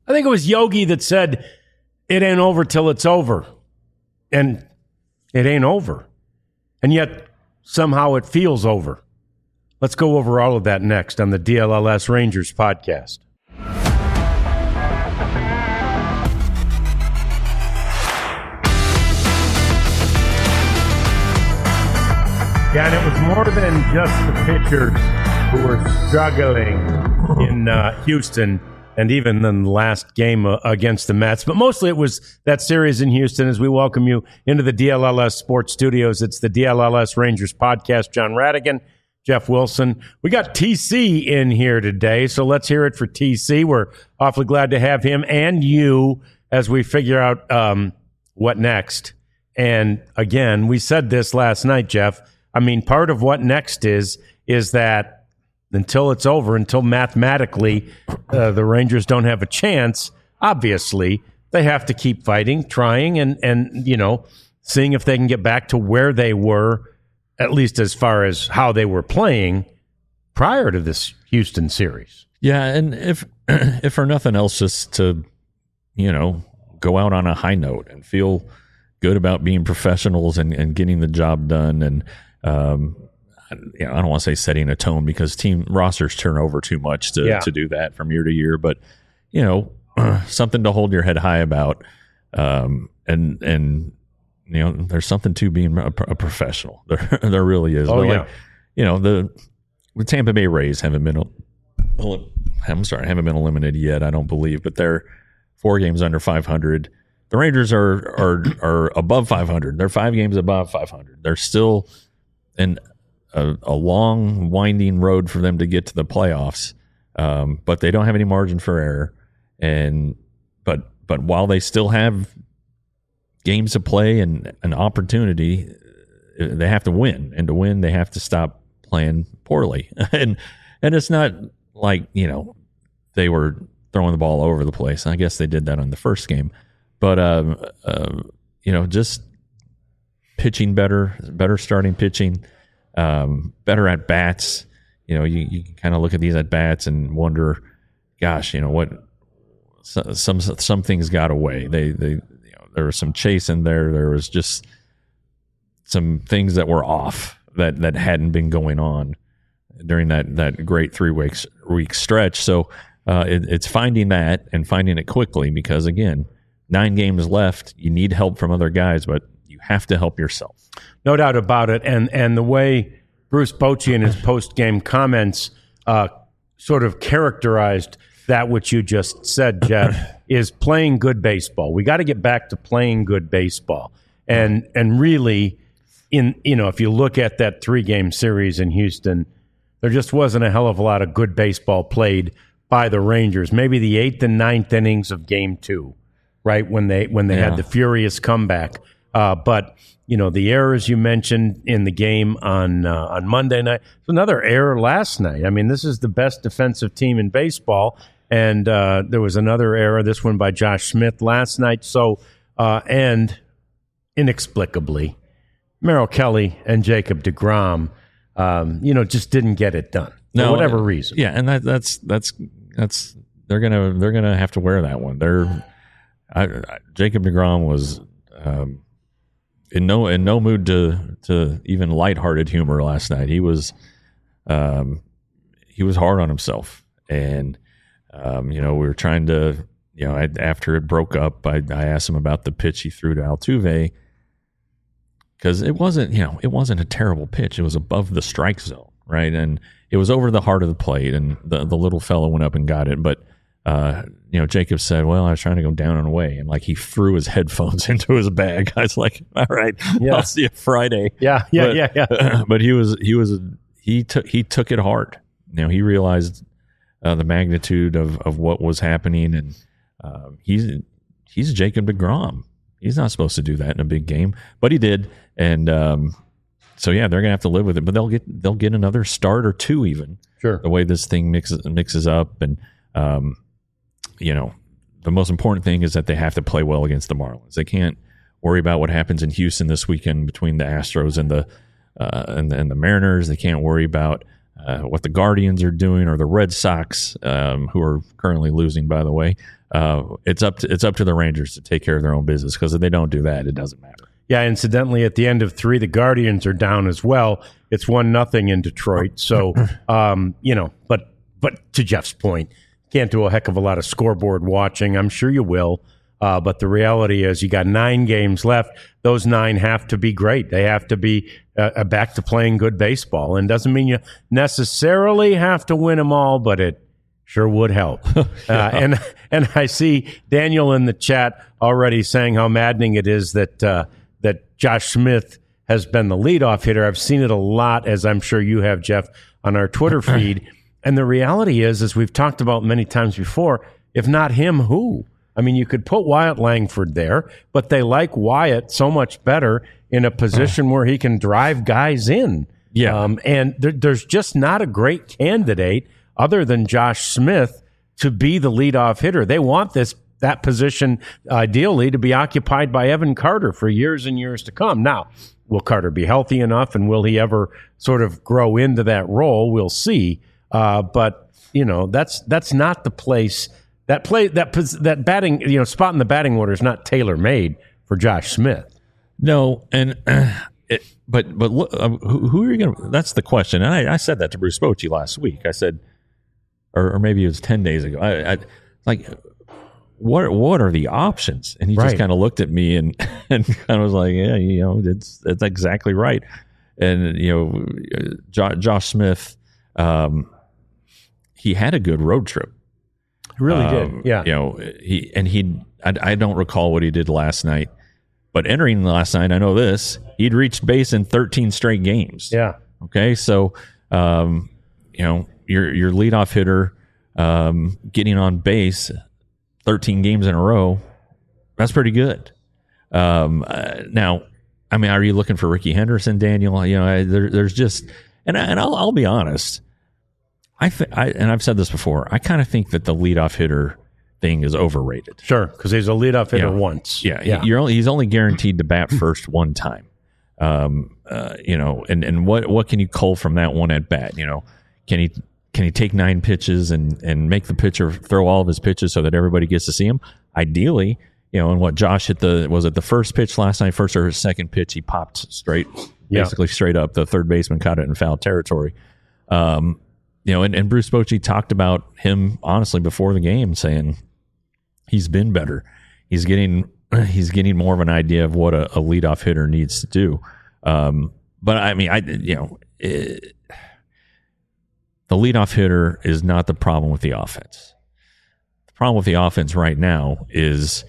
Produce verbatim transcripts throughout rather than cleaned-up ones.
I think it was Yogi that said, it ain't over till it's over. And it ain't over. And yet, somehow it feels over. Let's go over all of that next on the D L L S Rangers podcast. Yeah, and it was more than just the pitchers who were struggling in uh, Houston and even in the last game uh, against the Mets. But mostly it was that series in Houston as we welcome you into the D L L S Sports Studios. It's the D L L S Rangers podcast. John Radigan, Jeff Wilson. We got T C in here today, so let's hear it for T C. We're awfully glad to have him and you as we figure out um, what next. And again, we said this last night, Jeff. I mean, part of what next is, is that until it's over, until mathematically uh, the Rangers don't have a chance, obviously, they have to keep fighting, trying, and, and, you know, seeing if they can get back to where they were, at least as far as how they were playing prior to this Houston series. Yeah, and if if for nothing else, just to, you know, go out on a high note and feel good about being professionals and, and getting the job done. And, um, you know, I don't want to say setting a tone because team rosters turn over too much to, yeah. to do that from year to year. But, you know, something to hold your head high about. Um, and, and, you know, there's something to being a, a professional. There, there really is. Oh, but yeah. Like, you know, the, the Tampa Bay Rays haven't been, I'm sorry, haven't been eliminated yet, I don't believe, but they're four games under five hundred. The Rangers are are are above five hundred. They're five games above five hundred. They're still in a, a long, winding road for them to get to the playoffs, um, but they don't have any margin for error. And but but while they still have games to play and an opportunity, they have to win. And to win, they have to stop playing poorly. and and it's not like, you know, they were throwing the ball all over the place. I guess they did that on the first game. But, um, uh, you know, just pitching better, better starting pitching, um, better at bats. You know, you, you can kind of look at these at bats and wonder, gosh, you know, what so, some some things got away. They, they, you know, there was some chase in there. There was just some things that were off that, that hadn't been going on during that, that great three weeks week stretch. So uh, it, it's finding that and finding it quickly because, again, nine games left. You need help from other guys, but you have to help yourself. No doubt about it. And and the way Bruce Bochy in his post-game comments uh, sort of characterized that which you just said, Jeff, is playing good baseball. We got to get back to playing good baseball. And and really, in you know, if you look at that three-game series in Houston, there just wasn't a hell of a lot of good baseball played by the Rangers. Maybe the eighth and ninth innings of game two. Right when they when they yeah. had the furious comeback, uh, but you know the errors you mentioned in the game on uh, on Monday night. It's another error last night. I mean, this is the best defensive team in baseball, and uh, there was another error. This one by Josh Smith last night. So uh, and inexplicably, Merrill Kelly and Jacob deGrom, um, you know, just didn't get it done no, for whatever reason. Yeah, and that, that's that's that's they're gonna they're gonna have to wear that one. They're I, I, Jacob deGrom was um, in no in no mood to to even lighthearted humor last night. He was um, he was hard on himself, and um, you know we were trying to you know I, after it broke up, I, I asked him about the pitch he threw to Altuve because it wasn't you know it wasn't a terrible pitch. It was above the strike zone, right, and it was over the heart of the plate, and the the little fellow went up and got it, but. Uh, you know, Jacob said, well, I was trying to go down and away. And like he threw his headphones into his bag. I was like, all right, yeah. I'll see you Friday. Yeah, yeah, but, yeah, yeah. But he was, he was, he took, he took it hard. You know, he realized uh, the magnitude of, of what was happening. And uh, he's, he's Jacob deGrom. He's not supposed to do that in a big game, but he did. And um, so, yeah, they're going to have to live with it, but they'll get, they'll get another start or two even. Sure. The way this thing mixes, mixes up. And, um, you know, the most important thing is that they have to play well against the Marlins. They can't worry about what happens in Houston this weekend between the Astros and the uh, and, and the Mariners. They can't worry about uh, what the Guardians are doing or the Red Sox, um, who are currently losing, by the way. Uh, it's up to it's up to the Rangers to take care of their own business, because if they don't do that, it doesn't matter. Yeah, incidentally, at the end of three, the Guardians are down as well. It's one nothing in Detroit. So, um, you know, but but to Jeff's point, can't do a heck of a lot of scoreboard watching. I'm sure you will. Uh, but the reality is you got nine games left. Those nine have to be great. They have to be uh, back to playing good baseball. And doesn't mean you necessarily have to win them all, but it sure would help. yeah. uh, and and I see Daniel in the chat already saying how maddening it is that uh, that Josh Smith has been the leadoff hitter. I've seen it a lot, as I'm sure you have, Jeff, on our Twitter feed. And the reality is, as we've talked about many times before, if not him, who? I mean, you could put Wyatt Langford there, but they like Wyatt so much better in a position where he can drive guys in. Yeah. Um, and there, there's just not a great candidate other than Josh Smith to be the leadoff hitter. They want this that position ideally to be occupied by Evan Carter for years and years to come. Now, will Carter be healthy enough, and will he ever sort of grow into that role? We'll see. Uh, but you know, that's that's not the place. That play that that batting you know spot in the batting order is not tailor made for Josh Smith. No, and uh, it, but but look, uh, who, who are you going to? That's the question. And I, I said that to Bruce Bochy last week. I said, or, or maybe it was ten days ago. I, I like, what what are the options? And he right. just kind of looked at me and and kind of was like, yeah, you know, it's that's exactly right. And you know, jo- Josh Smith, um, he had a good road trip. Really um, did, yeah. You know, he and he. I, I don't recall what he did last night, but entering last night, I know this: he'd reached base in thirteen straight games. Yeah. Okay, so um, you know, your your leadoff hitter um, getting on base thirteen games in a row. That's pretty good. Um, uh, now, I mean, are you looking for Ricky Henderson, Daniel? You know, I, there, there's just, and I, and I'll, I'll be honest. I, th- I and I've said this before. I kind of think that the leadoff hitter thing is overrated. Sure, because he's a leadoff hitter you know, once. Yeah, yeah. You're only, he's only guaranteed to bat first one time. Um, uh, you know, and, and what what can you cull from that one at bat? You know, can he can he take nine pitches and and make the pitcher throw all of his pitches so that everybody gets to see him? Ideally, you know, and what Josh hit the was it the first pitch last night, first or his second pitch, he popped straight, yeah. basically straight up. The third baseman caught it in foul territory. Um, You know, and, and Bruce Bochy talked about him honestly before the game, saying he's been better. He's getting he's getting more of an idea of what a, a leadoff hitter needs to do. Um, but I mean, I you know, it, the leadoff hitter is not the problem with the offense. The problem with the offense right now is,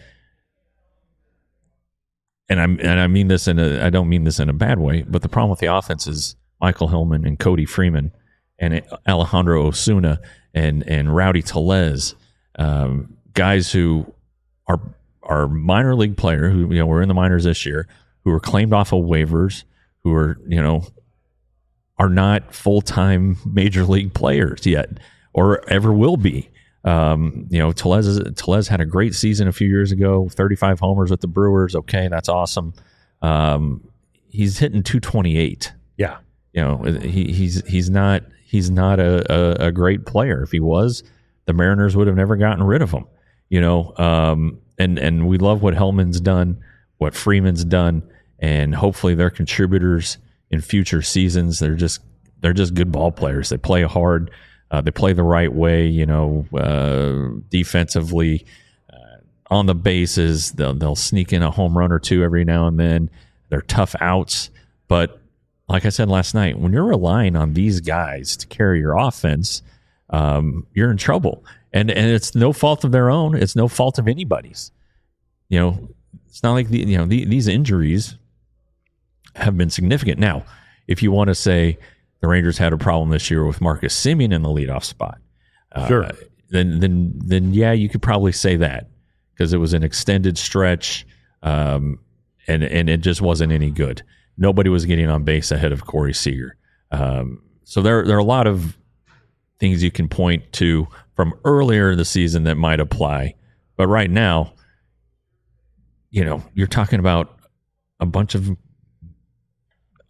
and I'm and I mean this in a I don't mean this in a bad way, but the problem with the offense is Michael Hillman and Cody Freeman and Alejandro Osuna and and Rowdy Tellez, um, guys who are are minor league player who you know were in the minors this year, who were claimed off of waivers, who are you know are not full time major league players yet, or ever will be. Um, you know, Tellez Tellez had a great season a few years ago, thirty-five homers with the Brewers. Okay, that's awesome. Um, he's hitting two twenty-eight. Yeah, you know he he's he's not. He's not a, a, a great player. If he was, the Mariners would have never gotten rid of him. You know, um, and and we love what Hellman's done, what Freeman's done, and hopefully they're contributors in future seasons. They're just they're just good ball players. They play hard. Uh, they play the right way. You know, uh, defensively, uh, on the bases, they'll they'll sneak in a home run or two every now and then. They're tough outs, but like I said last night, when you're relying on these guys to carry your offense, um, you're in trouble. And and it's no fault of their own. It's no fault of anybody's. You know, it's not like the, you know the, these injuries have been significant. Now, if you want to say the Rangers had a problem this year with Marcus Semien in the leadoff spot, uh, sure, then then then yeah, you could probably say that because it was an extended stretch, um, and and it just wasn't any good. Nobody was getting on base ahead of Corey Seager. Um, so there, there are a lot of things you can point to from earlier in the season that might apply. But right now, you know, you're talking about a bunch of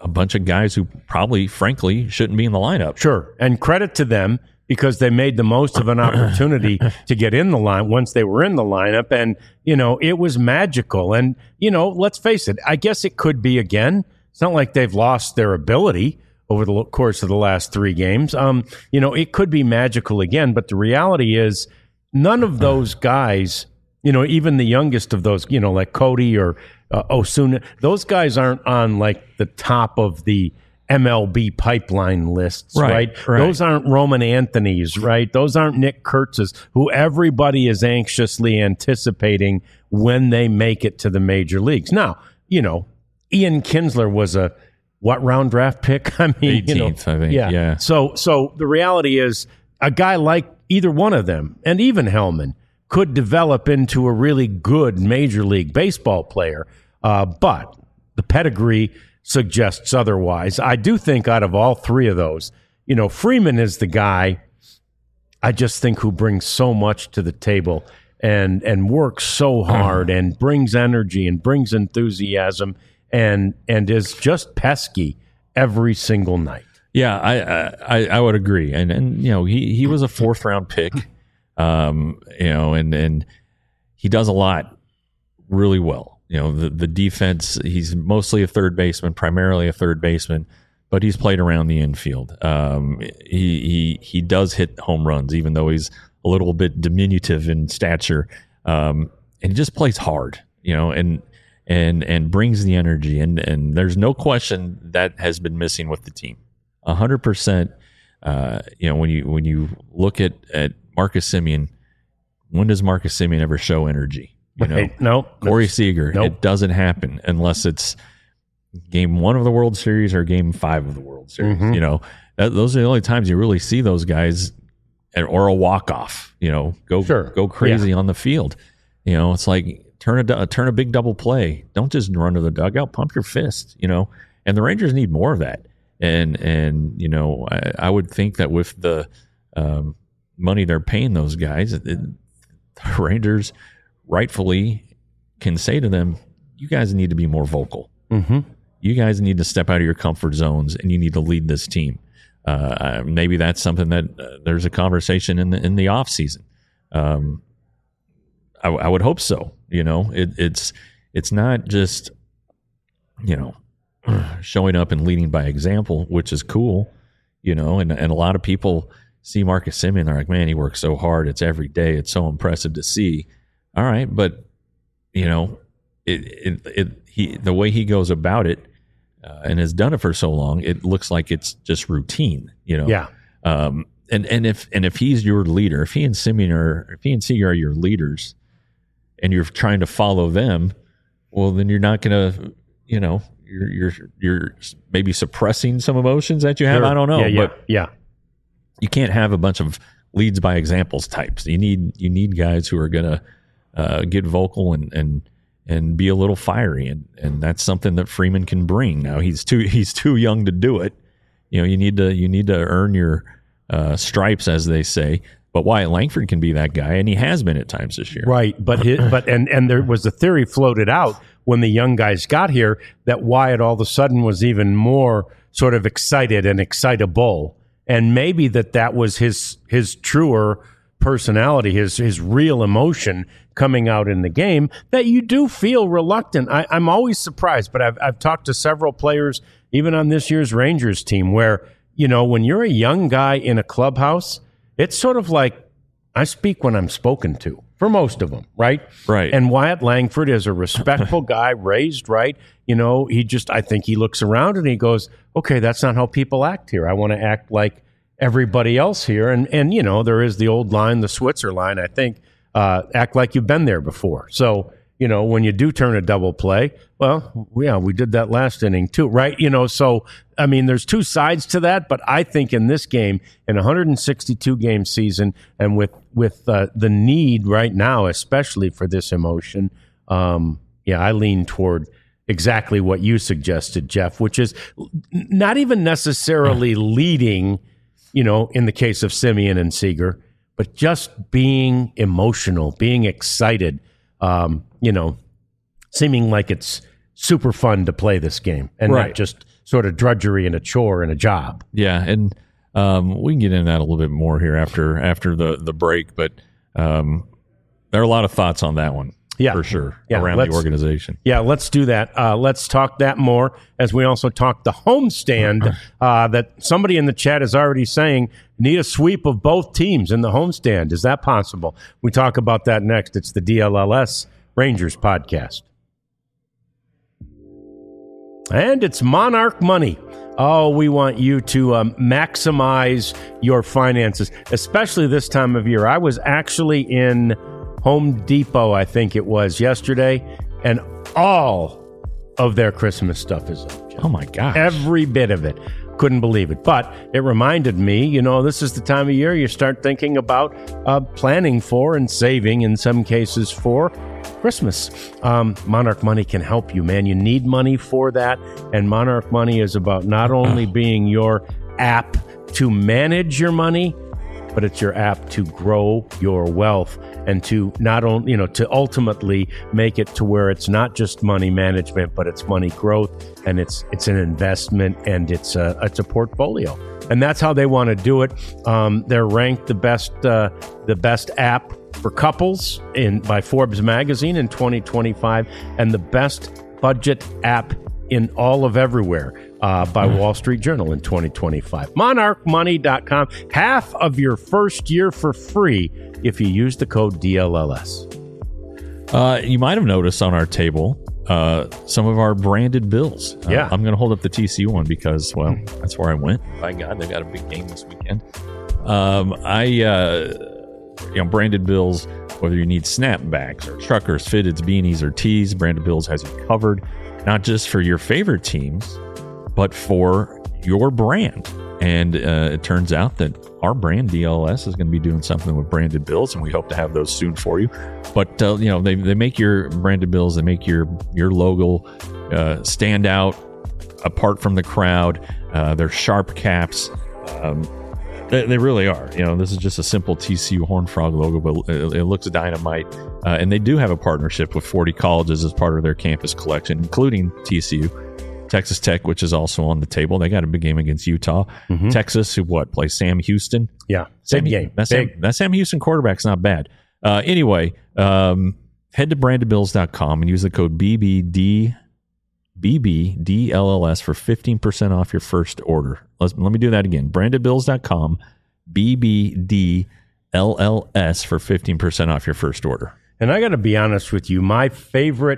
a bunch of guys who probably, frankly, shouldn't be in the lineup. Sure. And credit to them because they made the most of an opportunity to get in the line once they were in the lineup. And, you know, it was magical. And, you know, let's face it, I guess it could be again. It's not like they've lost their ability over the course of the last three games. Um, you know, it could be magical again. But the reality is none of those guys, you know, even the youngest of those, you know, like Cody or uh, Osuna, those guys aren't on like the top of the M L B pipeline lists, right, right? right? Those aren't Roman Anthony's, right? Those aren't Nick Kurtz's, who everybody is anxiously anticipating when they make it to the major leagues. Now, you know, Ian Kinsler was a what round draft pick? I mean, eighteenth, you know, I think. Yeah. yeah. So, so the reality is, a guy like either one of them, and even Hellman, could develop into a really good Major League Baseball player. Uh, but the pedigree suggests otherwise. I do think out of all three of those, you know, Freeman is the guy I just think who brings so much to the table and and works so hard and brings energy and brings enthusiasm and and is just pesky every single night. Yeah, I I, I would agree. And and you know, he, he was a fourth round pick. Um, you know, and and he does a lot really well. You know, the, the defense, he's mostly a third baseman, primarily a third baseman, but he's played around the infield. Um, he, he he does hit home runs, even though he's a little bit diminutive in stature. Um, and he just plays hard, you know, and and and brings the energy. And, and there's no question that has been missing with the team. A hundred percent. Uh, you know, when you when you look at, at Marcus Semien, when does Marcus Semien ever show energy? You know, Right. No, Corey Seager, nope. it doesn't happen unless it's game one of the World Series or game five of the World Series. Mhm. You know, that, those are the only times you really see those guys, or a walk off. You know, go Sure. go crazy on the field. You know, it's like turn a turn a big double play. Don't just run to the dugout. Pump your fist. You know, and the Rangers need more of that. And and you know, I, I would think that with the um, money they're paying those guys, it, the Rangers rightfully can say to them, you guys need to be more vocal. Mm-hmm. You guys need to step out of your comfort zones and you need to lead this team. Uh, maybe that's something that uh, there's a conversation in the in the off season. Um, I, I would hope so. You know, it, it's it's not just, you know, showing up and leading by example, which is cool. You know, and and a lot of people see Marcus Semien, they're like, man, he works so hard. It's every day. It's so impressive to see. All right, but you know, it it, it he the way he goes about it uh, and has done it for so long, it looks like it's just routine. You know, Yeah. Um, and and if and if he's your leader, if he and Semien are, if he and Seager are your leaders, and you're trying to follow them, well, then you're not going to, you know, you're you're you're maybe suppressing some emotions that you have. Sure. I don't know, Yeah, yeah, but yeah. you can't have a bunch of leads by examples types. You need you need guys who are going to uh, get vocal and and and be a little fiery, and and that's something that Freeman can bring. Now he's too he's too young to do it. You know, you need to you need to earn your uh, stripes, as they say. But Wyatt Langford can be that guy, and he has been at times this year. Right, but his, but and and there was a theory floated out when the young guys got here that Wyatt all of a sudden was even more sort of excited and excitable, and maybe that that was his his truer personality, his his real emotion coming out in the game, that you do feel reluctant. I, I'm always surprised, but I've I've talked to several players, even on this year's Rangers team, where, you know, when you're a young guy in a clubhouse, it's sort of like I speak when I'm spoken to, for most of them, right? Right. And Wyatt Langford is a respectful guy, raised right. You know, he just, I think he looks around and he goes, okay, that's not how people act here. I want to act like everybody else here. And, and you know, there is the old line, the Switzer line, I think, uh, act like you've been there before. So, you know, when you do turn a double play, well, yeah, we did that last inning too, right? You know, so, I mean, there's two sides to that, but I think in this game, in a one hundred sixty-two game season, and with, with uh, the need right now, especially for this emotion, um, yeah, I lean toward exactly what you suggested, Jeff, which is not even necessarily leading, you know, in the case of Semien and Seager, but just being emotional, being excited, um, you know, seeming like it's super fun to play this game and Right. not just sort of drudgery and a chore and a job. Yeah, and um, we can get into that a little bit more here after after the the break, but um, there are a lot of thoughts on that one. Yeah. For sure, Yeah, around let's- the organization. Yeah, let's do that. Uh, let's talk that more as we also talk the homestand uh, that somebody in the chat is already saying need a sweep of both teams in the homestand. Is that possible? We talk about that next. It's the D L L S Rangers podcast. And it's Monarch Money. Oh, we want you to um, maximize your finances, especially this time of year. I was actually in Home Depot, I think it was, yesterday, and all of their Christmas stuff is up. Jeff. Oh my gosh! Every bit of it. Couldn't believe it. But it reminded me, you know, this is the time of year you start thinking about uh, planning for and saving, in some cases, for Christmas. Um, Monarch Money can help you, man. You need money for that. And Monarch Money is about not only being your app to manage your money, but it's your app to grow your wealth and to not only, you know, to ultimately make it to where it's not just money management, but it's money growth, and it's it's an investment, and it's a it's a portfolio, and that's how they want to do it. Um, they're ranked the best uh, the best app for couples in by Forbes magazine in twenty twenty-five, and the best budget app in all of everywhere uh, by Wall Street Journal in twenty twenty-five. monarch money dot com. Half of your first year for free if you use the code D L L S. Uh, you might have noticed on our table uh, some of our branded bills. Uh, Yeah. I'm going to hold up the T C U one because, well, that's where I went. By God, they got a big game this weekend. Um, I, uh, you know, branded bills, whether you need snapbacks or truckers, fitteds, beanies, or tees, branded bills has you covered, not just for your favorite teams, but for your brand. And uh, it turns out that our brand, D L S, is going to be doing something with branded bills, and we hope to have those soon for you. But, uh, you know, they, they make your branded bills, they make your, your logo uh, stand out apart from the crowd. Uh, they're sharp caps. Um, they, they really are. You know, this is just a simple T C U Horned Frog logo, but it, it looks dynamite. Uh, and they do have a partnership with forty colleges as part of their campus collection, including T C U. Texas Tech, which is also on the table. They got a big game against Utah. Mm-hmm. Texas, who what, plays Sam Houston? Yeah, Sam, big game. That Big. Sam, that Sam Houston quarterback's not bad. Uh, anyway, um, head to branded bills dot com and use the code B B D B B D L L S for fifteen percent off your first order. Let's, let me do that again. branded bills dot com, B B D L L S for fifteen percent off your first order. And I got to be honest with you, my favorite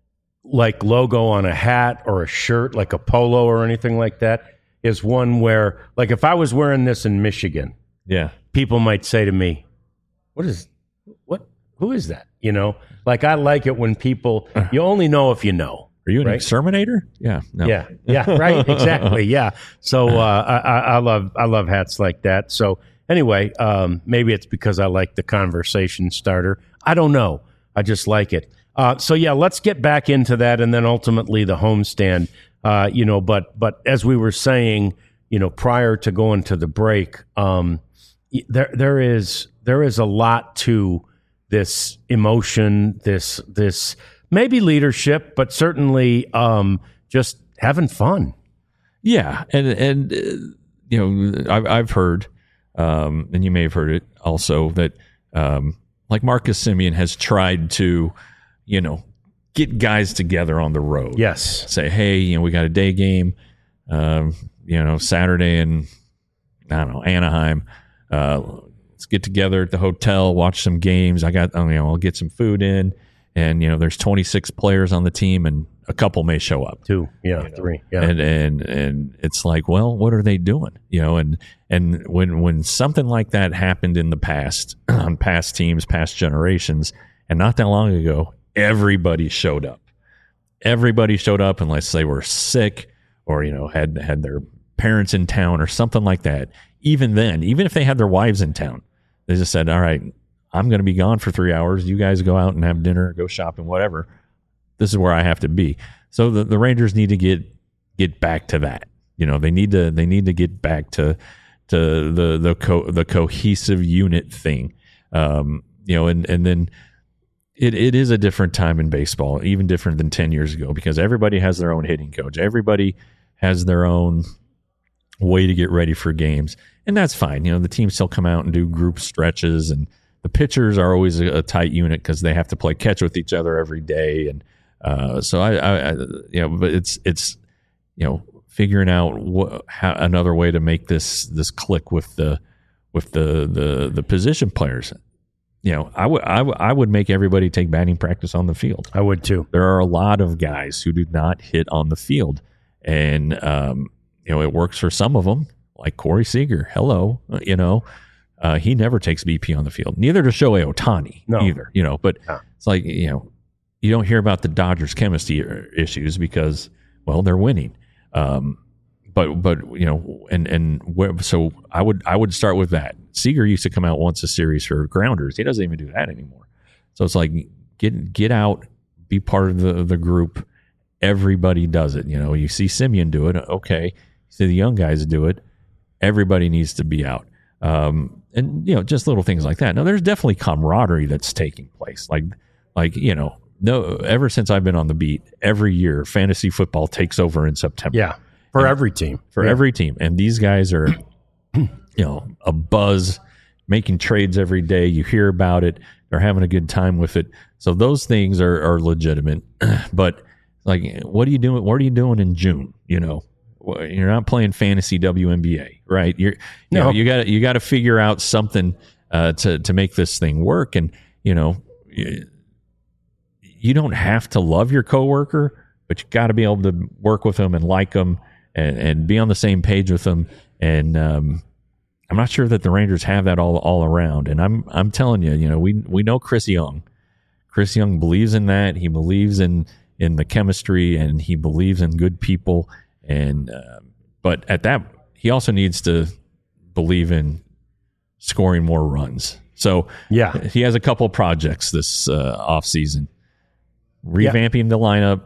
like logo on a hat or a shirt, like a polo or anything like that, is one where, like, if I was wearing this in Michigan, Yeah. people might say to me, "What is what? Who is that?" You know, like I like it when people. You only know if you know. Are you an Right. exterminator? Yeah. No. Yeah, yeah, right, exactly, yeah. So uh, I, I I love I love hats like that. So anyway, um, maybe it's because I like the conversation starter. I don't know. I just like it. Uh, so yeah, let's get back into that, and then ultimately the homestand. Uh, you know, but but as we were saying, you know, prior to going to the break, um, y- there there is there is a lot to this emotion, this this maybe leadership, but certainly um, just having fun. Yeah, and and uh, you know, I've I've heard, um, and you may have heard it also, that um, like Marcus Semien has tried to, you know, get guys together on the road. Yes, Say, hey, you know, we got a day game, um, you know, Saturday in, I don't know, Anaheim. Uh, let's get together at the hotel, watch some games. I got, you know, I'll get some food in, and you know, there's twenty-six players on the team, and a couple may show up. two, yeah, You know, three, yeah. and and and it's like, well, what are they doing? You know, and and when when something like that happened in the past on past teams, past generations, and not that long ago, everybody showed up. Everybody showed up unless they were sick or, you know, had had their parents in town or something like that. Even then, even if they had their wives in town, they just said, all right, I'm going to be gone for three hours. You guys go out and have dinner, go shopping, whatever. This is where I have to be. So the, the Rangers need to get get back to that. You know, they need to they need to get back to to the the co- the cohesive unit thing. Um, you know, and and then It it is a different time in baseball, even different than ten years ago, because everybody has their own hitting coach. Everybody has their own way to get ready for games, and that's fine. You know, the teams still come out and do group stretches, and the pitchers are always a, a tight unit because they have to play catch with each other every day, and uh, so I, I, I, you know, but it's it's you know figuring out what, how, another way to make this this click with the with the the the position players. You know, I would I, w- I would make everybody take batting practice on the field. I would too. There are a lot of guys who do not hit on the field, and um, you know it works for some of them, like Corey Seager. Hello, you know, uh, he never takes B P on the field. Neither does Shohei Ohtani no. either. You know, but no. It's like you know, you don't hear about the Dodgers' chemistry issues because well, they're winning. Um, But but you know and and where, so I would I would start with that. Seager used to come out once a series for grounders. He doesn't even do that anymore. So it's like get get out, be part of the the group. Everybody does it. You know, you see Simeon do it. Okay, you see the young guys do it. Everybody needs to be out. Um, and you know, just little things like that. Now, there's definitely camaraderie that's taking place. Like like you know, no. Ever since I've been on the beat, every year fantasy football takes over in September. Yeah. For and every team. For yeah. every team. And these guys are, you know, a buzz, making trades every day. You hear about it. They're having a good time with it. So those things are, are legitimate. But, like, what are you doing? What are you doing in June? You know, you're not playing fantasy W N B A, right? You're, you no. know, you got you got to figure out something uh, to to make this thing work. And, you know, you, you don't have to love your coworker, but you got to be able to work with them and like them. And, and be on the same page with them, and um, I'm not sure that the Rangers have that all all around. And I'm I'm telling you, you know, we we know Chris Young. Chris Young believes in that. He believes in in the chemistry, and he believes in good people. And uh, but at that, he also needs to believe in scoring more runs. So yeah, he has a couple projects this uh, off season, revamping yeah. the lineup.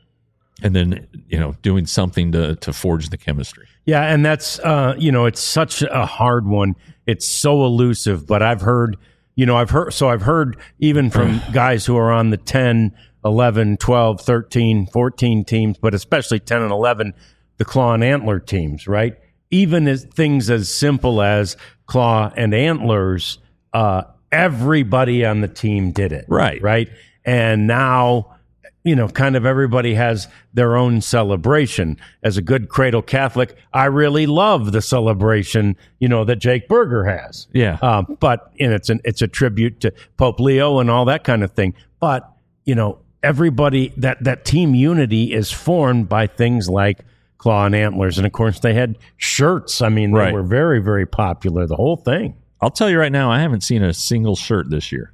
And then, you know, doing something to, to forge the chemistry. Yeah, and that's, uh, you know, it's such a hard one. It's so elusive, but I've heard, you know, I've heard, so I've heard even from guys who are on the ten, eleven, twelve, thirteen, fourteen teams, but especially ten and eleven, the Claw and Antler teams, right? Even as things as simple as Claw and Antlers, uh, everybody on the team did it. Right. Right. And now, you know, kind of everybody has their own celebration. As a good cradle Catholic, I really love the celebration, you know, that Jake Berger has. Yeah. Um, but and it's an it's a tribute to Pope Leo and all that kind of thing. But, you know, everybody, that, that team unity is formed by things like Claw and Antlers. And, of course, they had shirts. I mean, they right. were very, very popular, the whole thing. I'll tell you right now, I haven't seen a single shirt this year.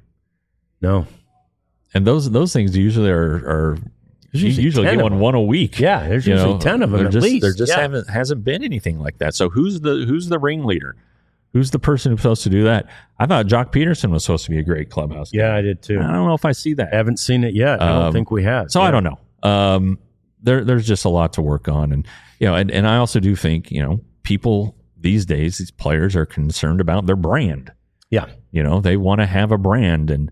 No. And those those things usually are, are you usually, usually get one one a week. Yeah, there's you usually know, ten of them at just, least. There just yeah. haven't hasn't been anything like that. So who's the who's the ringleader? Who's the person who's supposed to do that? I thought Jock Peterson was supposed to be a great clubhouse guy. Yeah, I did too. I don't know if I see that. I haven't seen it yet. I don't Um, think we have. So yeah. I don't know. Um, there there's just a lot to work on, and you know, and, and I also do think you know people these days, these players are concerned about their brand. Yeah, you know, they want to have a brand, and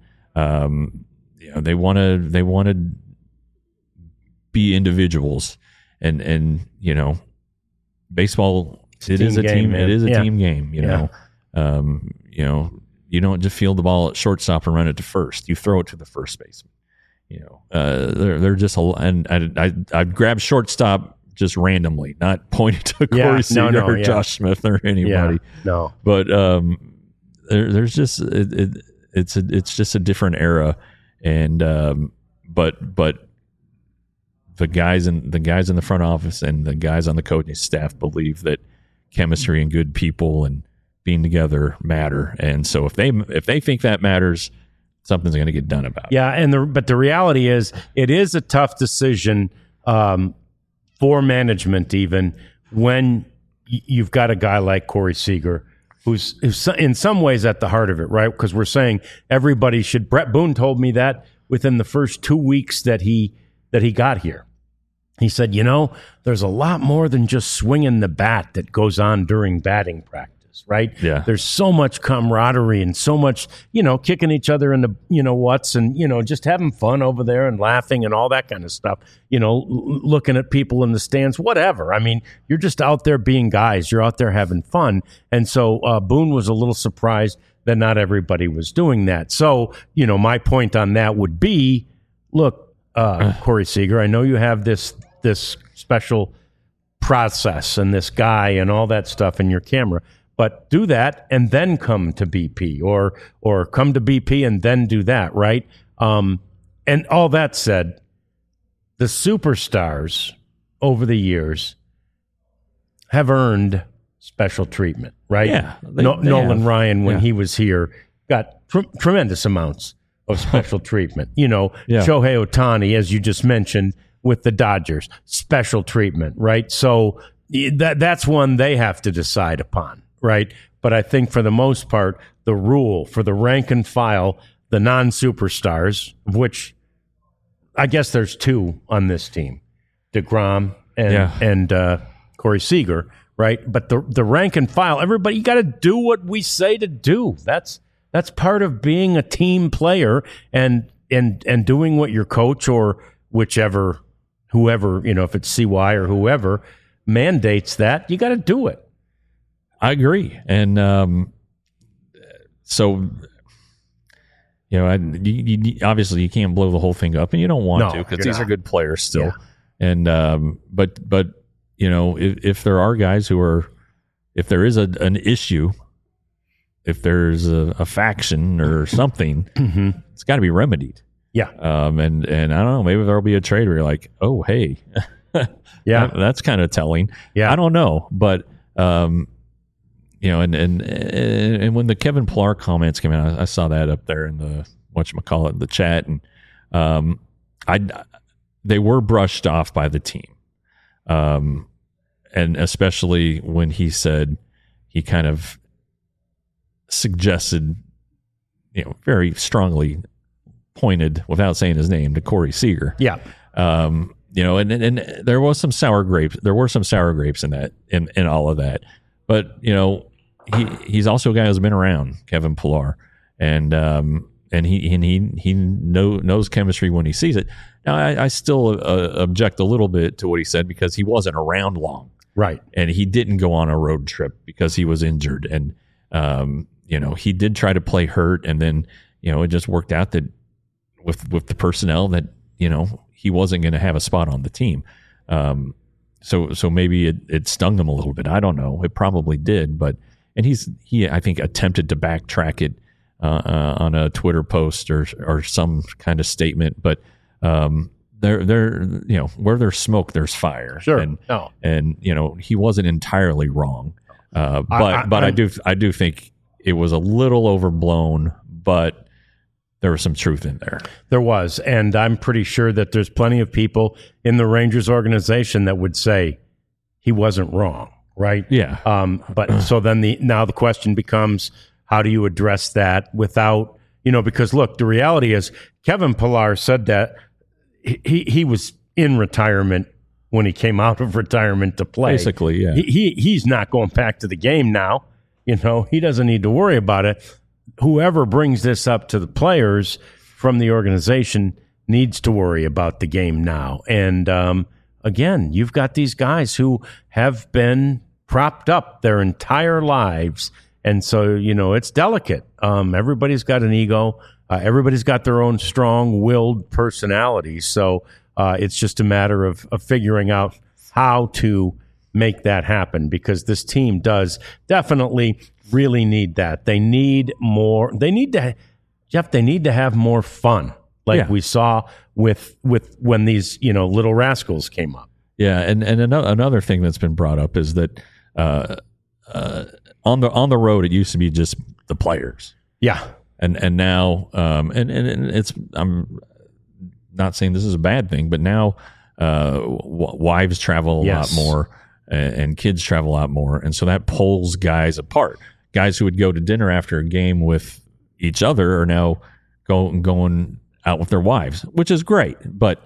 um, you know, they want to they want to be individuals, and and you know, baseball it team is a game, team man. it is a Yeah. team game. You Yeah. know, um, you know, you don't just field the ball at shortstop and run it to first. You throw it to the first baseman. You know, uh, they're they're just a and I I I grab shortstop just randomly, not pointing to Corey Yeah, no, Seager no, or yeah. Josh Smith or anybody. Yeah, no, But um, there, there's just it, it, it's a, it's just a different era, and um, but but the guys in the guys in the front office and the guys on the coaching staff believe that chemistry and good people and being together matter, and so if they if they think that matters, something's going to get done about it. yeah, and the but the reality is, it is a tough decision um, for management, even when y- you've got a guy like Corey Seager, who's, who's in some ways at the heart of it, right? Because we're saying everybody should. Brett Boone told me that within the first two weeks that he that he got here. He said, you know, there's a lot more than just swinging the bat that goes on during batting practice. is, right? Yeah. There's so much camaraderie and so much, you know, kicking each other in the, you know, what's and, you know, just having fun over there and laughing and all that kind of stuff. You know, l- looking at people in the stands, whatever. I mean, you're just out there being guys. You're out there having fun. And so uh, Boone was a little surprised that not everybody was doing that. So, you know, my point on that would be, look, uh, Corey Seager, I know you have this this special process and this guy and all that stuff in your camera, but do that and then come to B P, or or come to B P and then do that, right? Um, and all that said, the superstars over the years have earned special treatment, right? Yeah, they- no, they Nolan have. Ryan, when Yeah. he was here, got tr- tremendous amounts of special treatment. You know, Yeah. Shohei Ohtani, as you just mentioned, with the Dodgers, special treatment, right? So that that's one they have to decide upon, right? But I think for the most part, the rule for the rank and file, the non-superstars, of which I guess there's two on this team, DeGrom and Yeah. and uh, Corey Seager, right? But the the rank and file, everybody, you got to do what we say to do. That's that's part of being a team player and and and doing what your coach or whichever whoever, you know, if it's C Y or whoever mandates that, you got to do it. I agree. And um, so, you know, I, you, you, obviously you can't blow the whole thing up, and you don't want No, to, because you're these not. are good players still. Yeah. And um, but but you know, if, if there are guys who are, if there is a, an issue, if there's a, a faction or something, Mm-hmm. it's got to be remedied. Yeah. Um, and and I don't know, maybe there'll be a trade where you're like, oh hey, Yeah. that- that's kind of telling. Yeah. I don't know, but um, you know, and and and when the Kevin Pillar comments came out, I saw that up there in the whatchamacallit, the chat, and um, I they were brushed off by the team, um, and especially when he said he kind of suggested, you know, very strongly pointed without saying his name to Corey Seager. Yeah. Um, you know, and, and and there was some sour grapes. There were some sour grapes in that, in, in all of that. But you know, he he's also a guy who's been around, Kevin Pillar, and um and he and he he know, knows chemistry when he sees it. Now, I, I still uh, object a little bit to what he said, because he wasn't around long, Right. and he didn't go on a road trip because he was injured, and um you know, he did try to play hurt, and then you know, it just worked out that with with the personnel that, you know, he wasn't going to have a spot on the team. Um, so so maybe it, it stung him a little bit. I don't know. It probably did, but and he's he I think attempted to backtrack it uh, uh, on a Twitter post or or some kind of statement. But um, there there you know, where there's smoke, there's fire. Sure. And No. and you know, he wasn't entirely wrong. Uh, but I- I- but I I'm- do I do think it was a little overblown, but there was some truth in there. There was, and I'm pretty sure that there's plenty of people in the Rangers organization that would say he wasn't wrong, right? Yeah. Um, but so then the now the question becomes, how do you address that without, you know, because look, the reality is Kevin Pillar said that he he, he was in retirement when he came out of retirement to play. Basically, yeah. He, he he's not going back to the game now. You know, he doesn't need to worry about it. Whoever brings this up to the players from the organization needs to worry about the game now. And um, again, you've got these guys who have been propped up their entire lives. And so, you know, it's delicate. Um, everybody's got an ego. Uh, everybody's got their own strong-willed personality. So uh, it's just a matter of, of figuring out how to make that happen, because this team does definitely really need that. They need more. They need to, Jeff, they need to have more fun, like Yeah. we saw with with when these, you know, little rascals came up. Yeah, and and another another thing that's been brought up is that uh, uh, on the on the road it used to be just the players, Yeah. and and now um, and, and and it's I'm not saying this is a bad thing, but now uh, w- wives travel a Yes. lot more, and, and kids travel a lot more, and so that pulls guys apart. Guys who would go to dinner after a game with each other are now go, going out with their wives, which is great, but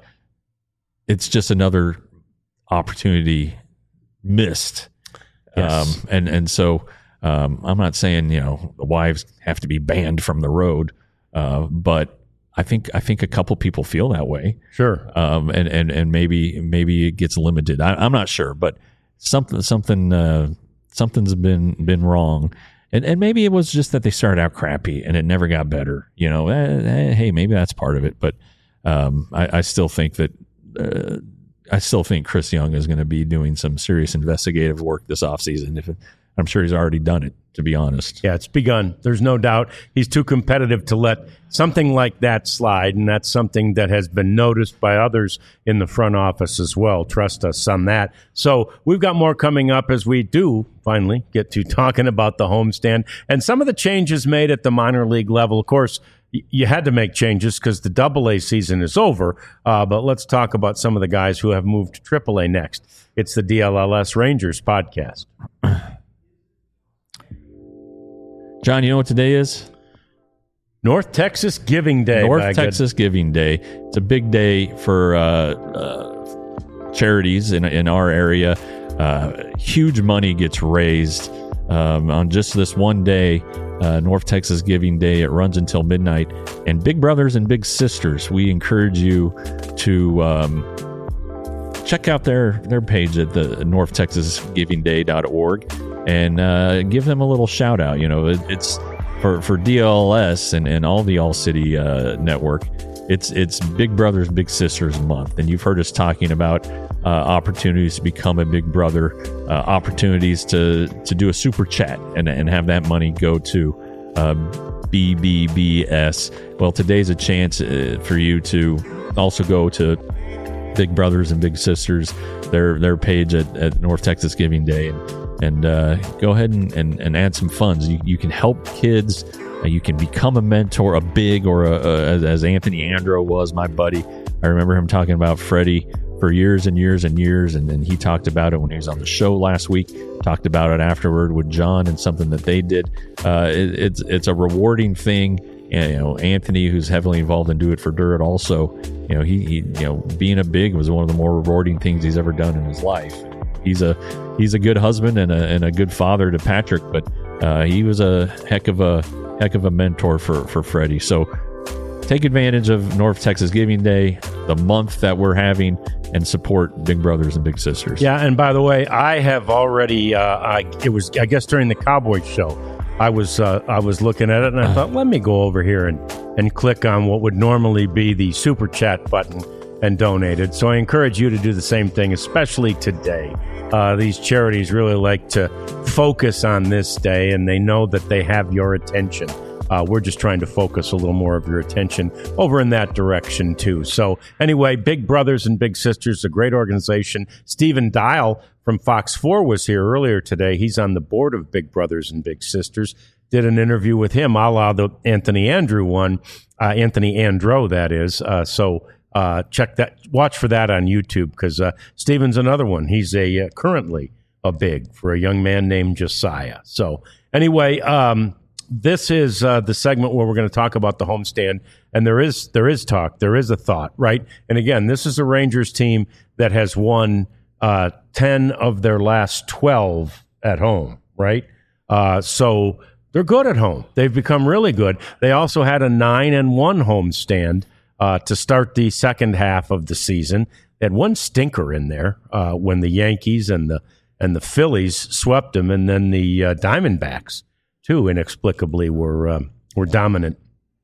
it's just another opportunity missed. Yes. Um, and, and so Um, I'm not saying, you know, the wives have to be banned from the road, uh, but I think I think a couple people feel that way. Sure. Um, and, and, and maybe maybe it gets limited. I, I'm not sure, but something something uh, something's been been wrong. And and maybe it was just that they started out crappy and it never got better. You know, eh, eh, hey, maybe that's part of it. But um, I, I still think that uh, I still think Chris Young is going to be doing some serious investigative work this offseason. If it, I'm sure he's already done it, to be honest. Yeah, it's begun. There's no doubt. He's too competitive to let something like that slide, and that's something that has been noticed by others in the front office as well. Trust us on that. So we've got more coming up as we do finally get to talking about the homestand and some of the changes made at the minor league level. Of course, you had to make changes because the double A season is over, uh, but let's talk about some of the guys who have moved to triple A next. It's the D L L S Rangers podcast. John, you know what today is? North Texas Giving Day. North Texas good. Giving Day. It's a big day for uh, uh, charities in in our area. Uh, huge money gets raised um, on just this one day, uh, North Texas Giving Day. It runs until midnight. And Big Brothers and Big Sisters, we encourage you to um, check out their, their page at the north texas giving day dot org. And uh, give them a little shout out. You know, it, it's for, for D L L S and, and all the All City uh, network. It's it's Big Brothers Big Sisters month, and you've heard us talking about uh, opportunities to become a big brother, uh, opportunities to to do a super chat and and have that money go to uh, B B B S. Well, today's a chance uh, for you to also go to Big Brothers and Big Sisters, their their page at, at North Texas Giving Day, and and uh, go ahead and, and, and add some funds. You, you can help kids. Uh, you can become a mentor, a big or a, a, as, as Anthony Andro was, my buddy. I remember him talking about Freddie for years and years and years, and then he talked about it when he was on the show last week. Talked about it afterward with John and something that they did. Uh, it, it's it's a rewarding thing. And, you know, Anthony, who's heavily involved in Do It for Dirt, also, you know, he, he you know being a big was one of the more rewarding things he's ever done in his life. He's a he's a good husband and a and a good father to Patrick, but uh, he was a heck of a heck of a mentor for for Freddie. So take advantage of North Texas Giving Day, the month that we're having, and support Big Brothers and Big Sisters. Yeah, and by the way, I have already. Uh, I it was I guess during the Cowboys show, I was uh, I was looking at it and I thought, let me go over here and and click on what would normally be the super chat button and donate it. So I encourage you to do the same thing, especially today. Uh, these charities really like to focus on this day, and they know that they have your attention. Uh, we're just trying to focus a little more of your attention over in that direction, too. So anyway, Big Brothers and Big Sisters, a great organization. Stephen Dial from Fox four was here earlier today. He's on the board of Big Brothers and Big Sisters. Did an interview with him, a la the Anthony Andrew one, uh, Anthony Andro, that is. Uh, so uh, check that, watch for that on YouTube, because uh, Stephen's another one. He's a uh, currently a big for a young man named Josiah. So anyway, um, this is uh, the segment where we're going to talk about the homestand, and there is there is talk, there is a thought, right? And again, this is a Rangers team that has won uh, ten of their last twelve at home, right? Uh, so they're good at home. They've become really good. They also had a nine and one homestand uh, to start the second half of the season. They had one stinker in there uh, when the Yankees and the and the Phillies swept them, and then the uh, Diamondbacks too, inexplicably, were uh, were dominant.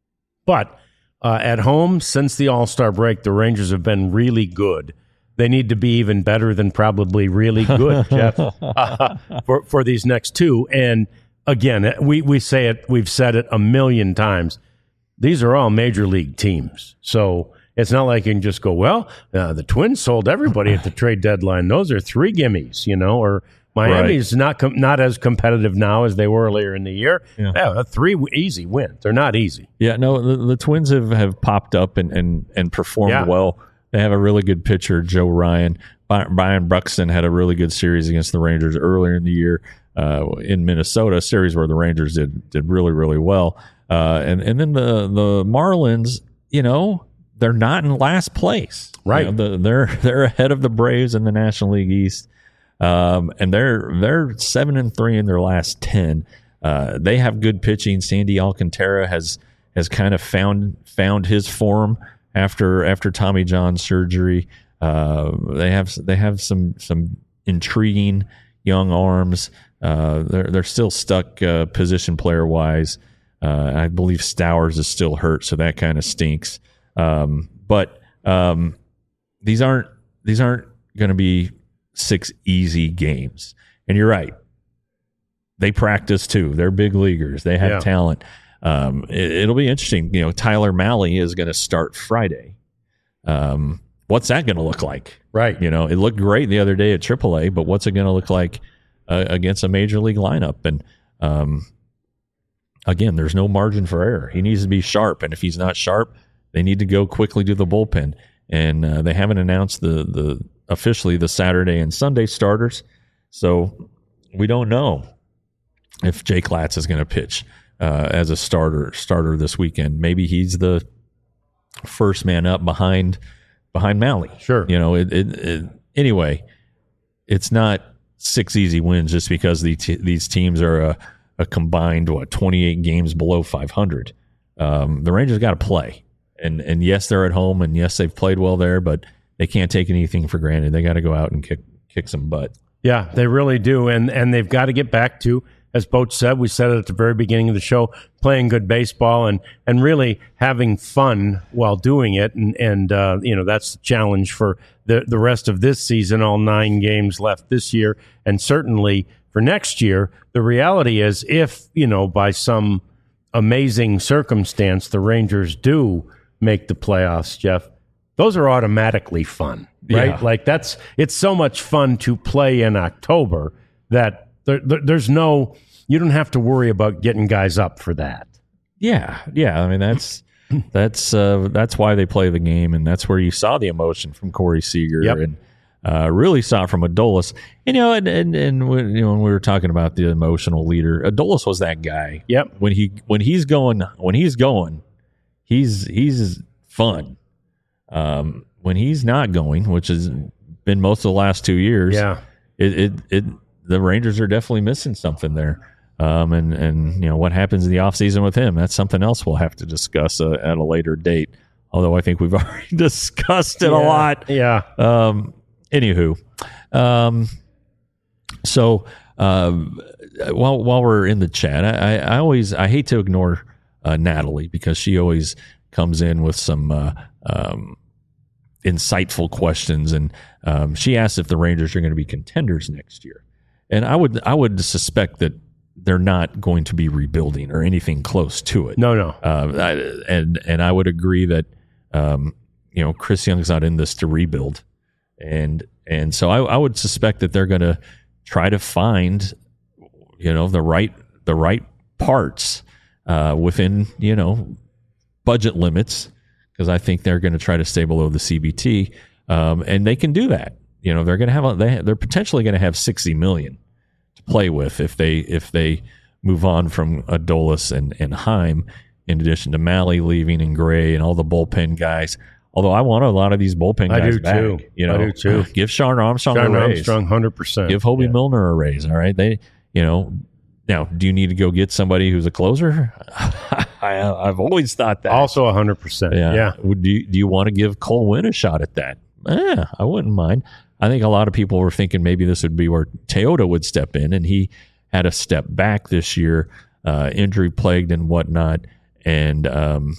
But uh, at home, since the All-Star break, the Rangers have been really good. They need to be even better than probably really good, Jeff, uh, for for these next two. And again, we we say it, we've said it a million times. These are all major league teams, so it's not like you can just go, well, uh, the Twins sold everybody at the trade deadline. Those are three gimmies, you know, or Miami's right. not com- not as competitive now as they were earlier in the year. Yeah, yeah three w- easy wins. They're not easy. Yeah, no, the, the Twins have, have popped up and, and, and performed yeah. well. They have a really good pitcher, Joe Ryan. Brian Buxton had a really good series against the Rangers earlier in the year uh, in Minnesota, a series where the Rangers did did really, really well. Uh, and, and then the, the Marlins, you know, they're not in last place. Right. You know, the, they're they're ahead of the Braves in the National League East. Um, and they're they're seven and three in their last ten. Uh, they have good pitching. Sandy Alcantara has has kind of found found his form after after Tommy John surgery. Uh, they have they have some some intriguing young arms. Uh, they're they're still stuck uh, position player wise. Uh, I believe Stowers is still hurt, so that kind of stinks. Um, but um, these aren't these aren't going to be six easy games. And you're right. They practice too. They're big leaguers. They have Yeah. talent. Um, it, it'll be interesting. You know, Tyler Mahle is going to start Friday. Um, what's that going to look like? Right. You know, it looked great the other day at triple A, but what's it going to look like uh, against a major league lineup? And um, again, there's no margin for error. He needs to be sharp, and if he's not sharp, they need to go quickly to the bullpen. And uh, they haven't announced the the officially the Saturday and Sunday starters, so we don't know if Jake Latz is going to pitch uh, as a starter starter this weekend. Maybe he's the first man up behind behind Mahle. Sure. You know, it, it, it anyway. It's not six easy wins just because the t- these teams are a, a combined what twenty-eight games below five hundred. Um, the Rangers got to play, and and yes, they're at home, and yes, they've played well there, but they can't take anything for granted. They got to go out and kick kick some butt. Yeah, they really do. And and they've got to get back to, as Boach said, we said it at the very beginning of the show, playing good baseball and, and really having fun while doing it. And, and uh, you know, that's the challenge for the, the rest of this season, all nine games left this year. And certainly for next year, the reality is if, you know, by some amazing circumstance, the Rangers do make the playoffs, Jeff, those are automatically fun, right? Yeah. Like that's, it's so much fun to play in October that there, there, there's no, you don't have to worry about getting guys up for that. Yeah, yeah. I mean, that's that's uh, that's why they play the game, and that's where you saw the emotion from Corey Seager, Yep. and uh, really saw it from Adolis. And, you know, and and, and when, you know, when we were talking about the emotional leader, Adolis was that guy. Yep. When he when he's going when he's going, he's he's fun. Um, when he's not going, which has been most of the last two years, Yeah. it it, it the Rangers are definitely missing something there. Um, and, and, you know, what happens in the offseason with him, that's something else we'll have to discuss uh, at a later date. Although I think we've already discussed it Yeah. a lot. Yeah. Um, anywho, um, so uh, while while we're in the chat, I, I always I hate to ignore uh, Natalie because she always comes in with some uh, um, insightful questions, and um, she asks if the Rangers are going to be contenders next year. And I would I would suspect that they're not going to be rebuilding or anything close to it. No, no. Uh, I, and and I would agree that um, you know Chris Young's not in this to rebuild, and and so I, I would suspect that they're going to try to find you know the right the right parts uh, within you know budget limits, because I think they're going to try to stay below the C B T, um, and they can do that. You know they're going to have a, they they're potentially going to have sixty million to play with if they if they move on from Adolis and and Heim, in addition to Mahle leaving and Gray and all the bullpen guys. Although I want a lot of these bullpen I guys do back. too. You know, I do too. Give Sean Armstrong John a raise. Armstrong, one hundred percent. Give Hobie Yeah. Milner a raise. All right, they you know. Now, do you need to go get somebody who's a closer? I, I've always thought that. Also one hundred percent. Yeah. Yeah. Would you, do you want to give Cole Winn a shot at that? Eh, I wouldn't mind. I think a lot of people were thinking maybe this would be where Teodo would step in, and he had a step back this year, uh, injury plagued and whatnot. And um,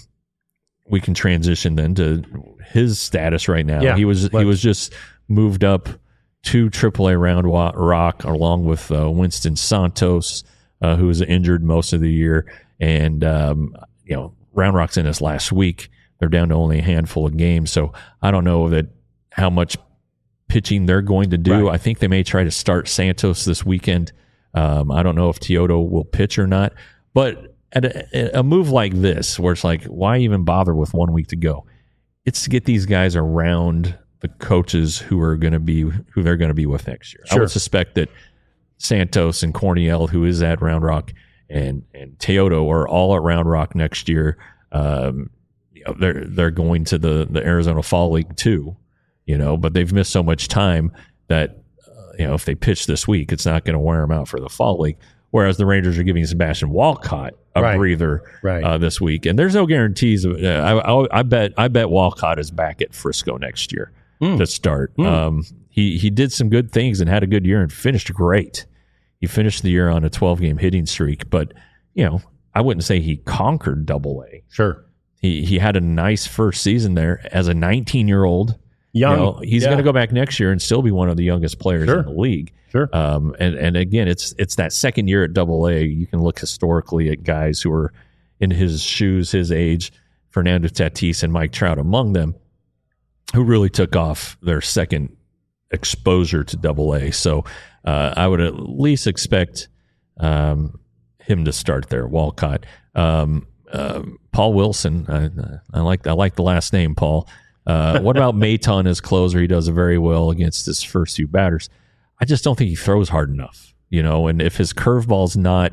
we can transition then to his status right now. Yeah, he was let's. he was just moved up to triple A Round Wa- Rock along with uh, Winston Santos, uh, who was injured most of the year. And um, you know, Round Rock's in this last week. They're down to only a handful of games, so I don't know that how much pitching they're going to do. Right. I think they may try to start Santos this weekend. Um, I don't know if Teodo will pitch or not, but at a, a move like this, where it's like, why even bother with one week to go? It's to get these guys around the coaches who are going to be who they're going to be with next year. I Sure. would suspect that Santos and Corniel, who is at Round Rock, and and Teodo are all at Round Rock next year. Um, you know, they're they're going to the the Arizona Fall League too. You know, but they've missed so much time that uh, you know, if they pitch this week, it's not going to wear them out for the fall league. Whereas the Rangers are giving Sebastian Walcott a right. breather right. Uh, this week, and there's no guarantees. Of, uh, I, I, I bet I bet Walcott is back at Frisco next year mm. to start. Mm. Um, he he did some good things and had a good year and finished great. He finished the year on a twelve game hitting streak, but you know, I wouldn't say he conquered Double A. Sure, he he had a nice first season there as a nineteen year old. Young, you know, he's yeah. going to go back next year and still be one of the youngest players sure. in the league. Sure. Um, and, and again, it's it's that second year at Double A. You can look historically at guys who are in his shoes, his age, Fernando Tatis and Mike Trout among them, who really took off their second exposure to Double A. So uh, I would at least expect um, him to start there. Walcott, um, uh, Paul Wilson. I, I like I like the last name, Paul. Uh, what about Maton as closer? He does very well against his first few batters. I just don't think he throws hard enough, you know. And if his curveball's not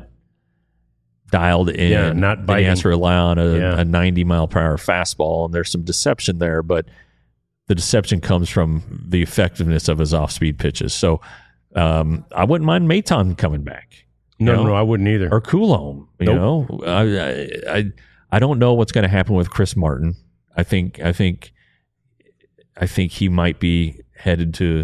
dialed in, yeah, not then he has to rely on a, yeah. a ninety mile per hour fastball, and there's some deception there. But the deception comes from the effectiveness of his off speed pitches. So um, I wouldn't mind Maton coming back. No, know? no, I wouldn't either. Or Coulombe, you nope. know. I, I I don't know what's going to happen with Chris Martin. I think I think. I think he might be headed to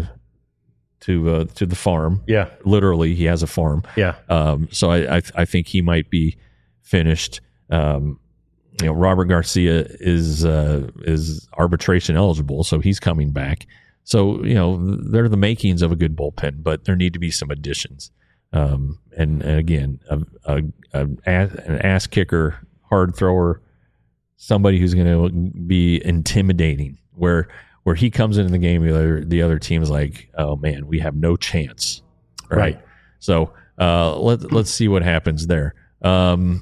to uh, to the farm. Yeah, literally, he has a farm. Yeah. Um, so I, I I think he might be finished. Um, you know, Robert Garcia is uh, is arbitration eligible, so he's coming back. So you know, they're the makings of a good bullpen, but there need to be some additions. Um, and, and again, a, a, a an ass kicker, hard thrower, somebody who's going to be intimidating. Where Where he comes into the game, the other, the other team is like, oh, man, we have no chance. Right. right. So uh, let, let's see what happens there. Um,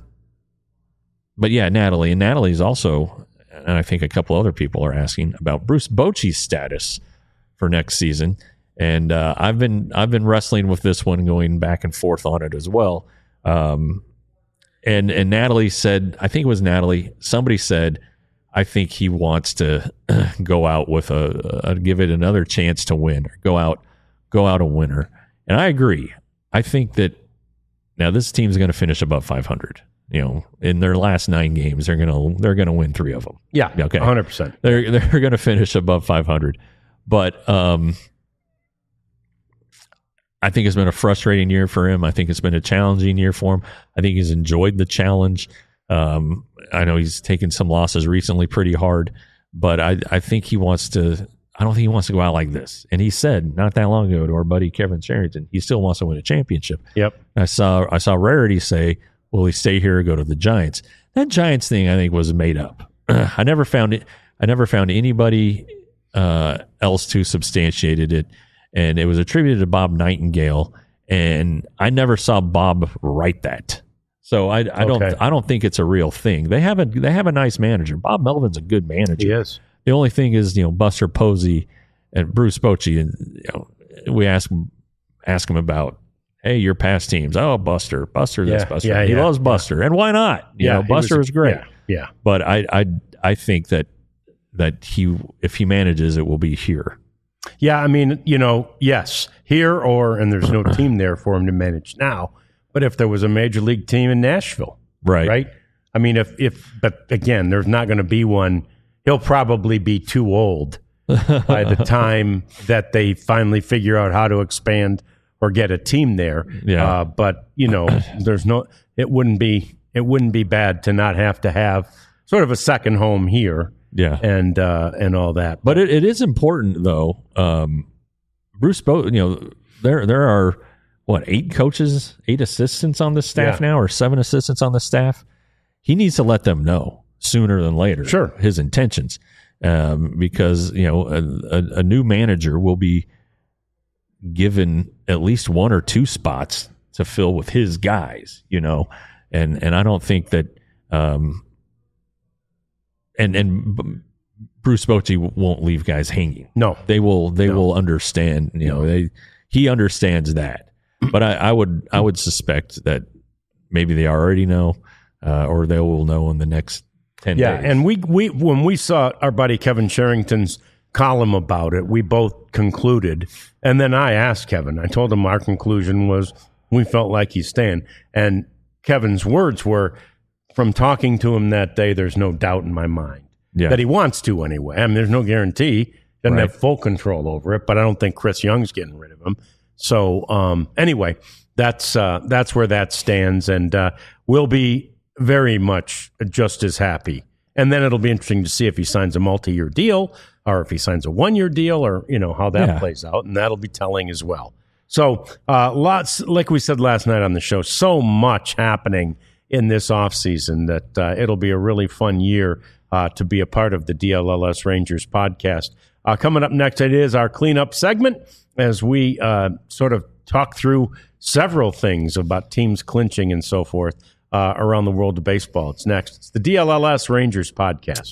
but, yeah, Natalie. And Natalie's also, and I think a couple other people are asking about Bruce Bochy's status for next season. And uh, I've been I've been wrestling with this one, going back and forth on it as well. Um, and, and Natalie said, I think it was Natalie, somebody said, I think he wants to go out with a, a give it another chance to win, or go out, go out a winner. And I agree. I think that now this team's going to finish above five hundred. You know, in their last nine games, they're going to they're going to win three of them. Yeah, okay, one hundred percent. They're they're going to finish above five hundred. But um, I think it's been a frustrating year for him. I think it's been a challenging year for him. I think he's enjoyed the challenge. Um, I know he's taken some losses recently pretty hard, but I, I think he wants to, I don't think he wants to go out like this. And he said not that long ago to our buddy Kevin Sherrington, he still wants to win a championship. Yep. I saw, I saw Rarity say, will he stay here or go to the Giants? That Giants thing, I think, was made up. I never found it. I never found anybody uh, else to substantiate it. And it was attributed to Bob Nightingale. And I never saw Bob write that. So I, I don't okay. I don't think it's a real thing. They have a they have a nice manager. Bob Melvin's a good manager. He is. The only thing is, you know, Buster Posey and Bruce Bochy, and you know, we ask ask him about, hey, your past teams. Oh, Buster, Buster, this yeah, Buster. Yeah, he yeah, loves Buster, yeah. and why not? You yeah, know, Buster was, was great. Yeah, yeah. But I I I think that that he if he manages, it will be here. Yeah, I mean, you know, yes, here or and there's no team there for him to manage now. But if there was a major league team in Nashville, right, right? I mean, if if but again, there's not going to be one. He'll probably be too old by the time that they finally figure out how to expand or get a team there. Yeah. Uh, but you know, there's no. It wouldn't be. It wouldn't be bad to not have to have sort of a second home here. Yeah, and uh, and all that. But it, it is important though. Um, Bruce, Bo, you know, there there are. What, eight coaches, eight assistants on the staff yeah. now, or seven assistants on the staff? He needs to let them know sooner than later sure. his intentions, um, because you know a, a, a new manager will be given at least one or two spots to fill with his guys, you know, and and I don't think that, um, and and Bruce Bochy won't leave guys hanging. No, they will. They no. will understand. You know, they he understands that. But I, I would I would suspect that maybe they already know, uh, or they will know in the next ten yeah, days. Yeah, and we we when we saw our buddy Kevin Sherrington's column about it. We both concluded. And then I asked Kevin. I told him our conclusion was we felt like he's staying. And Kevin's words were, from talking to him that day, there's no doubt in my mind yeah. that he wants to anyway. I mean, there's no guarantee. Doesn't right. have full control over it, but I don't think Chris Young's getting rid of him. So um, anyway, that's uh, that's where that stands, and uh, we'll be very much just as happy. And then it'll be interesting to see if he signs a multi-year deal or if he signs a one-year deal, or you know how that yeah. plays out, and that'll be telling as well. So uh, lots, like we said last night on the show, so much happening in this offseason that uh, it'll be a really fun year uh, to be a part of the D L L S Rangers podcast. Uh, coming up next, it is our cleanup segment as we uh, sort of talk through several things about teams clinching and so forth uh, around the world of baseball. It's next. It's the D L L S Rangers podcast.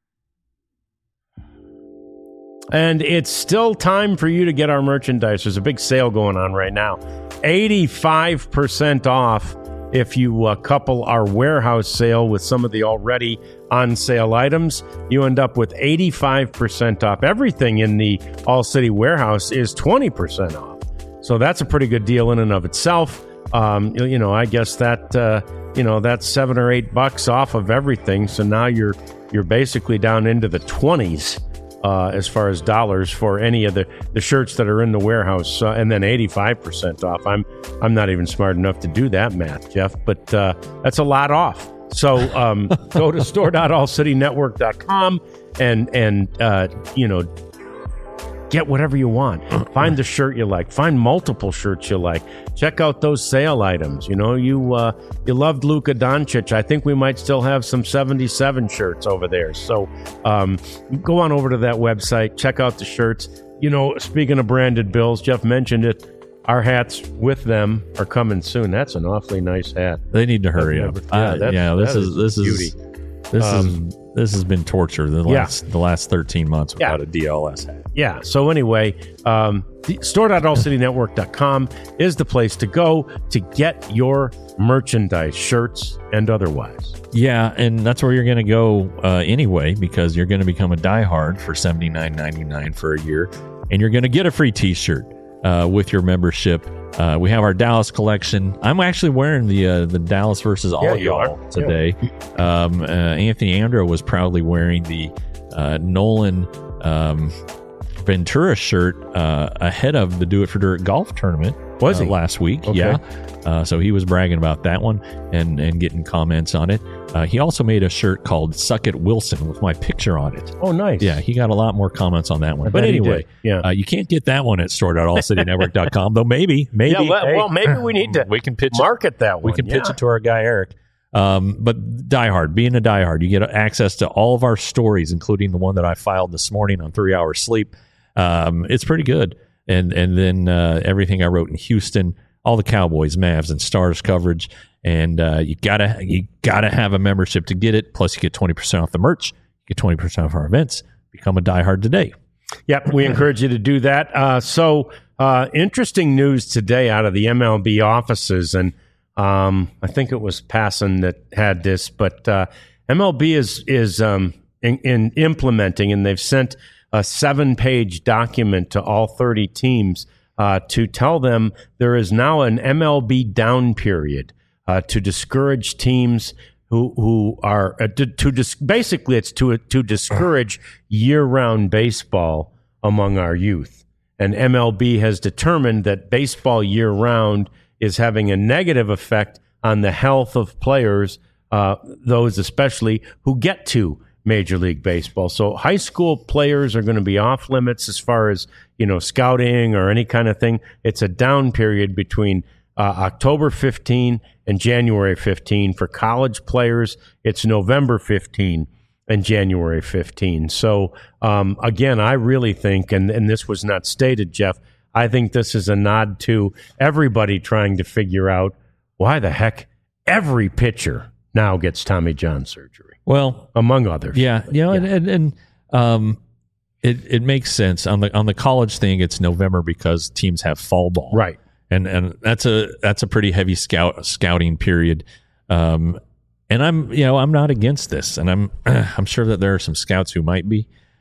And it's still time for you to get our merchandise. There's a big sale going on right now. eighty-five percent off if you uh, couple our warehouse sale with some of the already on-sale items. You end up with eighty-five percent off. Everything in the All-City warehouse is twenty percent off. So that's a pretty good deal in and of itself. Um, you know, I guess that, uh, you know, that's seven or eight bucks off of everything. So now you're you're basically down into the twenties. Uh, as far as dollars for any of the, the shirts that are in the warehouse, uh, and then eighty-five percent off. I'm I'm not even smart enough to do that math, Jeff, but uh, that's a lot off. So um, go to store dot all city network dot com and and uh, you know, get whatever you want. Find the shirt you like. Find multiple shirts you like. Check out those sale items. You know, you uh, you loved Luka Doncic. I think we might still have some seventy-seven shirts over there. So um, go on over to that website. Check out the shirts. You know, speaking of branded bills, Jeff mentioned it. Our hats with them are coming soon. That's an awfully nice hat. They need to hurry up. Yeah, uh, yeah this is this is beauty. This um, is this has been torture the last yeah. the last thirteen months without yeah. a D L S hat. Yeah. So anyway, um, store dot all city network dot com is the place to go to get your merchandise, shirts and otherwise. Yeah, and that's where you're going to go uh, anyway, because you're going to become a diehard for seventy-nine ninety-nine for a year, and you're going to get a free T-shirt uh, with your membership. Uh, we have our Dallas collection. I'm actually wearing the uh, the Dallas versus all yeah, y'all today. Yeah. Um, uh, Anthony Andro was proudly wearing the uh, Nolan um, Ventura shirt uh, ahead of the Do It for Dirt golf tournament. Was uh, he? Last week? Okay. Yeah. Uh, so he was bragging about that one and, and getting comments on it. Uh, he also made a shirt called Suck It Wilson with my picture on it. Oh, nice. Yeah, he got a lot more comments on that one. I but anyway, yeah. uh, you can't get that one at store dot all city network dot com, though maybe. maybe. Yeah, well, hey, well, maybe we need to we can pitch market it. that one. We can yeah. pitch it to our guy, Eric. Um, but diehard, being a diehard, you get access to all of our stories, including the one that I filed this morning on Three Hours Sleep. Um, it's pretty good. And and then uh, everything I wrote in Houston, all the Cowboys, Mavs, and Stars coverage. And uh, you gotta you gotta have a membership to get it. Plus, you get twenty percent off the merch. You get twenty percent off our events. Become a diehard today. Yep, we encourage you to do that. Uh, so, uh, interesting news today out of the M L B offices, and um, I think it was Passan that had this, but uh, M L B is is um, in, in implementing, and they've sent a seven-page document to all thirty teams uh, to tell them there is now an M L B down period uh, to discourage teams who who are uh, to, to dis- basically it's to to discourage year-round baseball among our youth. And M L B has determined that baseball year-round is having a negative effect on the health of players, uh, those especially who get to Major League Baseball. So high school players are going to be off limits as far as, you know, scouting or any kind of thing. It's a down period between uh, October fifteenth and January fifteenth. For college players, it's November fifteenth and January fifteenth. So, um, again, I really think, and, and this was not stated, Jeff, I think this is a nod to everybody trying to figure out why the heck every pitcher now gets Tommy John surgery. Well, among others. Yeah, you know, yeah. and, and, and um, it it makes sense on the on the college thing. It's November because teams have fall ball, right? And and that's a that's a pretty heavy scout scouting period. Um, and I'm you know I'm not against this, and I'm I'm sure that there are some scouts who might be.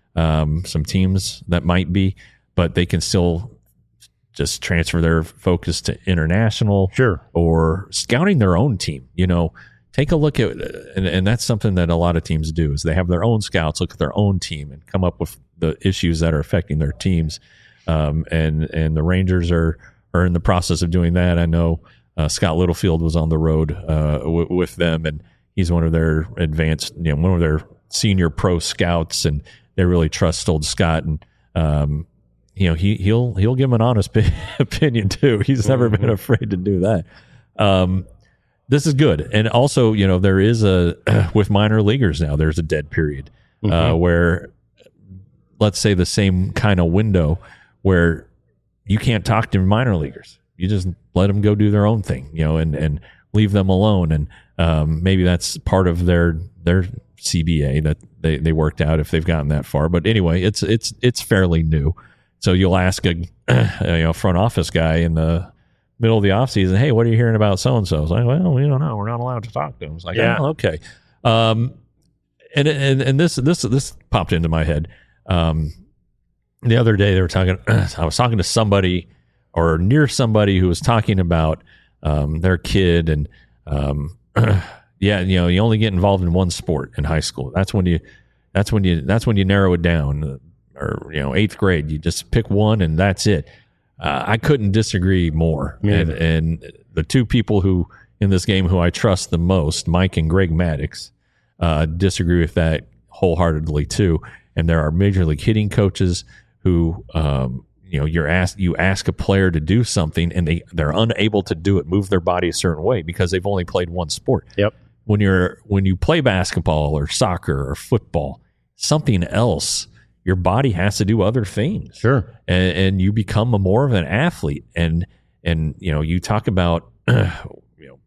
um, some teams that might be, but they can still just transfer their focus to international, sure, or scouting their own team. You know, take a look at, and, and that's something that a lot of teams do, is they have their own scouts look at their own team and come up with the issues that are affecting their teams. Um, and and the Rangers are are in the process of doing that. I know uh, Scott Littlefield was on the road uh, w- with them, and he's one of their advanced, you know, one of their senior pro scouts, and they really trust old Scott. And um, you know, he he'll he'll give him an honest opinion too. He's never mm-hmm. been afraid to do that. Um, this is good, and also, you know, there is a with minor leaguers now, there's a dead period mm-hmm. uh, where, let's say, the same kind of window where you can't talk to minor leaguers. You just let them go do their own thing, you know, and, and leave them alone. And um, maybe that's part of their their C B A that they, they worked out if they've gotten that far. But anyway, it's it's it's fairly new. So you'll ask a you know front office guy in the middle of the offseason, hey, what are you hearing about so and so? It's like, well, we don't know. We're not allowed to talk to them. It's like, yeah, oh, okay. Um, and and and this this this popped into my head. Um, The other day they were talking, I was talking to somebody or near somebody who was talking about um, their kid, and um, yeah, you know, you only get involved in one sport in high school. That's when you, that's when you, that's when you narrow it down. Or, you know, eighth grade, you just pick one and that's it. Uh, I couldn't disagree more. Yeah. And, and the two people who in this game who I trust the most, Mike and Greg Maddox, uh, disagree with that wholeheartedly too. And there are major league hitting coaches who, um, you know, you're asked, you ask a player to do something and they, they're unable to do it, move their body a certain way because they've only played one sport. Yep. When you're, when you play basketball or soccer or football, something else, your body has to do other things. Sure. And, and you become a more of an athlete. And, and, you know, you talk about, you know,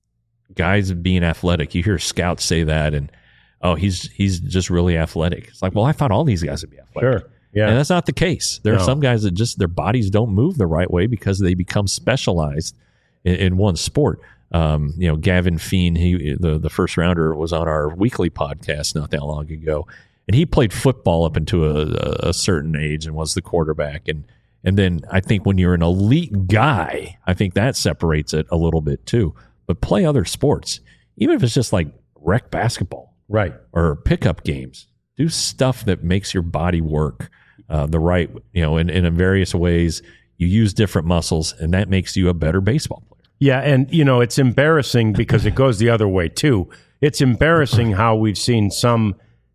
guys being athletic. You hear scouts say that, and, oh, he's, he's just really athletic. It's like, well, I thought all these guys would be athletic. Sure. Yeah. And that's not the case. There No. are some guys that just their bodies don't move the right way because they become specialized in, in one sport. Um, you know, Gavin Feen, he the, the first rounder, was on our weekly podcast not that long ago, and he played football up into a, a certain age and was the quarterback. And and then I think when you're an elite guy, I think that separates it a little bit too. But play other sports, even if it's just like rec basketball, right, or pickup games. Do stuff that makes your body work uh, the right, you know, in, in various ways. You use different muscles, and that makes you a better baseball player. Yeah, and, you know, it's embarrassing because it goes the other way, too. It's embarrassing how we've seen some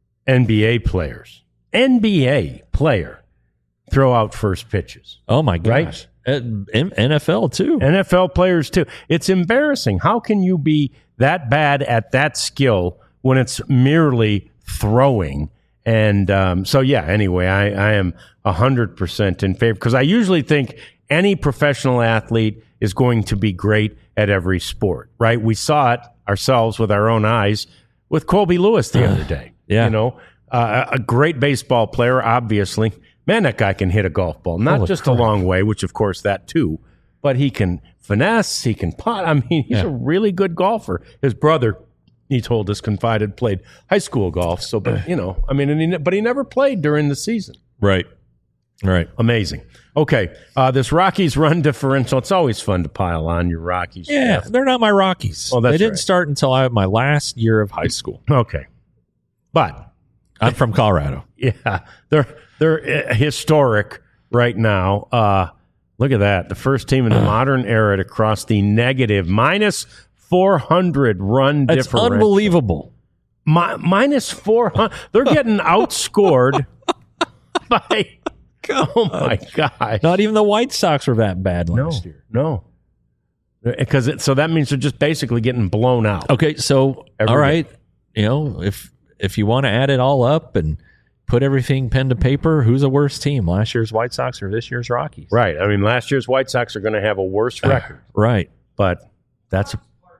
N B A players, N B A player, throw out first pitches. Oh, my gosh. Right? N F L, too. N F L players, too. It's embarrassing. How can you be that bad at that skill when it's merely throwing? And um, so, yeah, anyway, I, I am one hundred percent in favor, because I usually think any professional athlete is going to be great at every sport, right? We saw it ourselves with our own eyes with Colby Lewis the other day. Yeah. You know, uh, a great baseball player, obviously. Man, that guy can hit a golf ball. Not Holy just crap. a long way, which, of course, that too, but he can finesse, he can putt. I mean, he's Yeah. a really good golfer. His brother, he told us, confided, played high school golf. So, but you know, I mean, and he, but he never played during the season. Right. Right. Amazing. Okay, uh, this Rockies run differential. It's always fun to pile on your Rockies. Yeah, Jeff. they're not my Rockies. Oh, that's they didn't right. start until I my last year of high school. Okay, but I'm from Colorado. yeah, they're they're uh, historic right now. Uh, look at that, the first team in the modern era to cross the negative minus four hundred run It's differential. unbelievable. Mi- minus four hundred. They're getting outscored by. Oh my gosh! Not even the White Sox were that bad No, last year. no, because it, so that means they're just basically getting blown out. Okay, so Every all right, you know, if if you want to add it all up and put everything pen to paper, who's a worse team? Last year's White Sox or this year's Rockies? Right. I mean, last year's White Sox are going to have a worse record, Right. but that's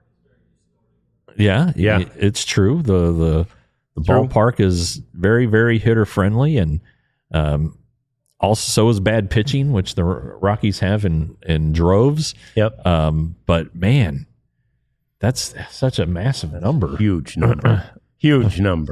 Yeah, Yeah. y- it's true. The the the True. ballpark is very very hitter friendly, and um, also so is bad pitching, which the R- Rockies have in in droves. yep, Um, but man, that's such a massive number. huge number, huge number.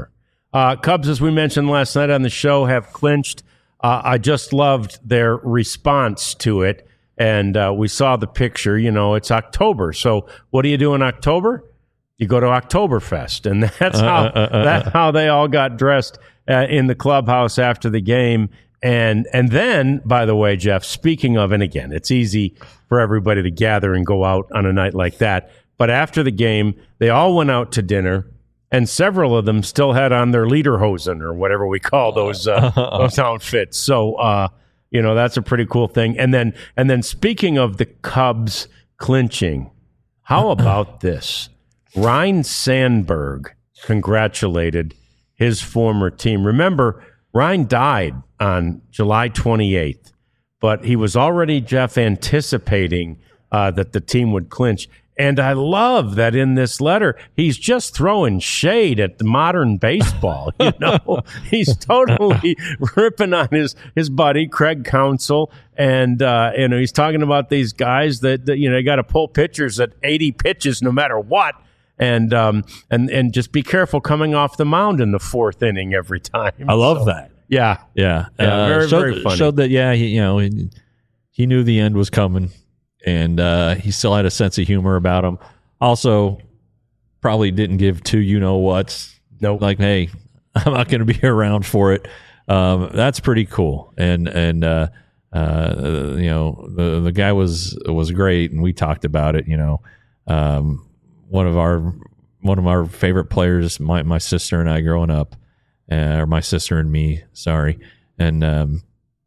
Uh, Cubs, as we mentioned last night on the show, have clinched. Uh, I just loved their response to it. And uh, we saw the picture. You know, it's October. So what do you do in October? You go to Oktoberfest. And that's uh, how uh, uh, uh, that's how they all got dressed uh, in the clubhouse after the game. And and then, by the way, Jeff, speaking of, and again, it's easy for everybody to gather and go out on a night like that. But after the game, they all went out to dinner, and several of them still had on their lederhosen or whatever we call those uh, those outfits. So, uh, you know, that's a pretty cool thing. And then, and then, speaking of the Cubs clinching, how about this? Ryne Sandberg congratulated his former team. Remember, Ryne died on July twenty-eighth, but he was already, Jeff, anticipating uh, that the team would clinch. And I love that in this letter, he's just throwing shade at the modern baseball. You know, he's totally ripping on his, his buddy, Craig Counsell. And, uh, you know, he's talking about these guys that, that you know, you got to pull pitchers at eighty pitches no matter what. And, um, and, and just be careful coming off the mound in the fourth inning every time. I love so, that. Yeah. Yeah. yeah uh, very, showed, very funny. Showed that, yeah, he, you know, he, he knew the end was coming. And uh, he still had a sense of humor about him. Also, probably didn't give two you-know-whats. Nope. Like, hey, I'm not going to be around for it. Um, that's pretty cool. And, and uh, uh, you know, the the guy was was great, and we talked about it, you know. Um, one of our one of our favorite players, my, my sister and I growing up, uh, or my sister and me, sorry. And, um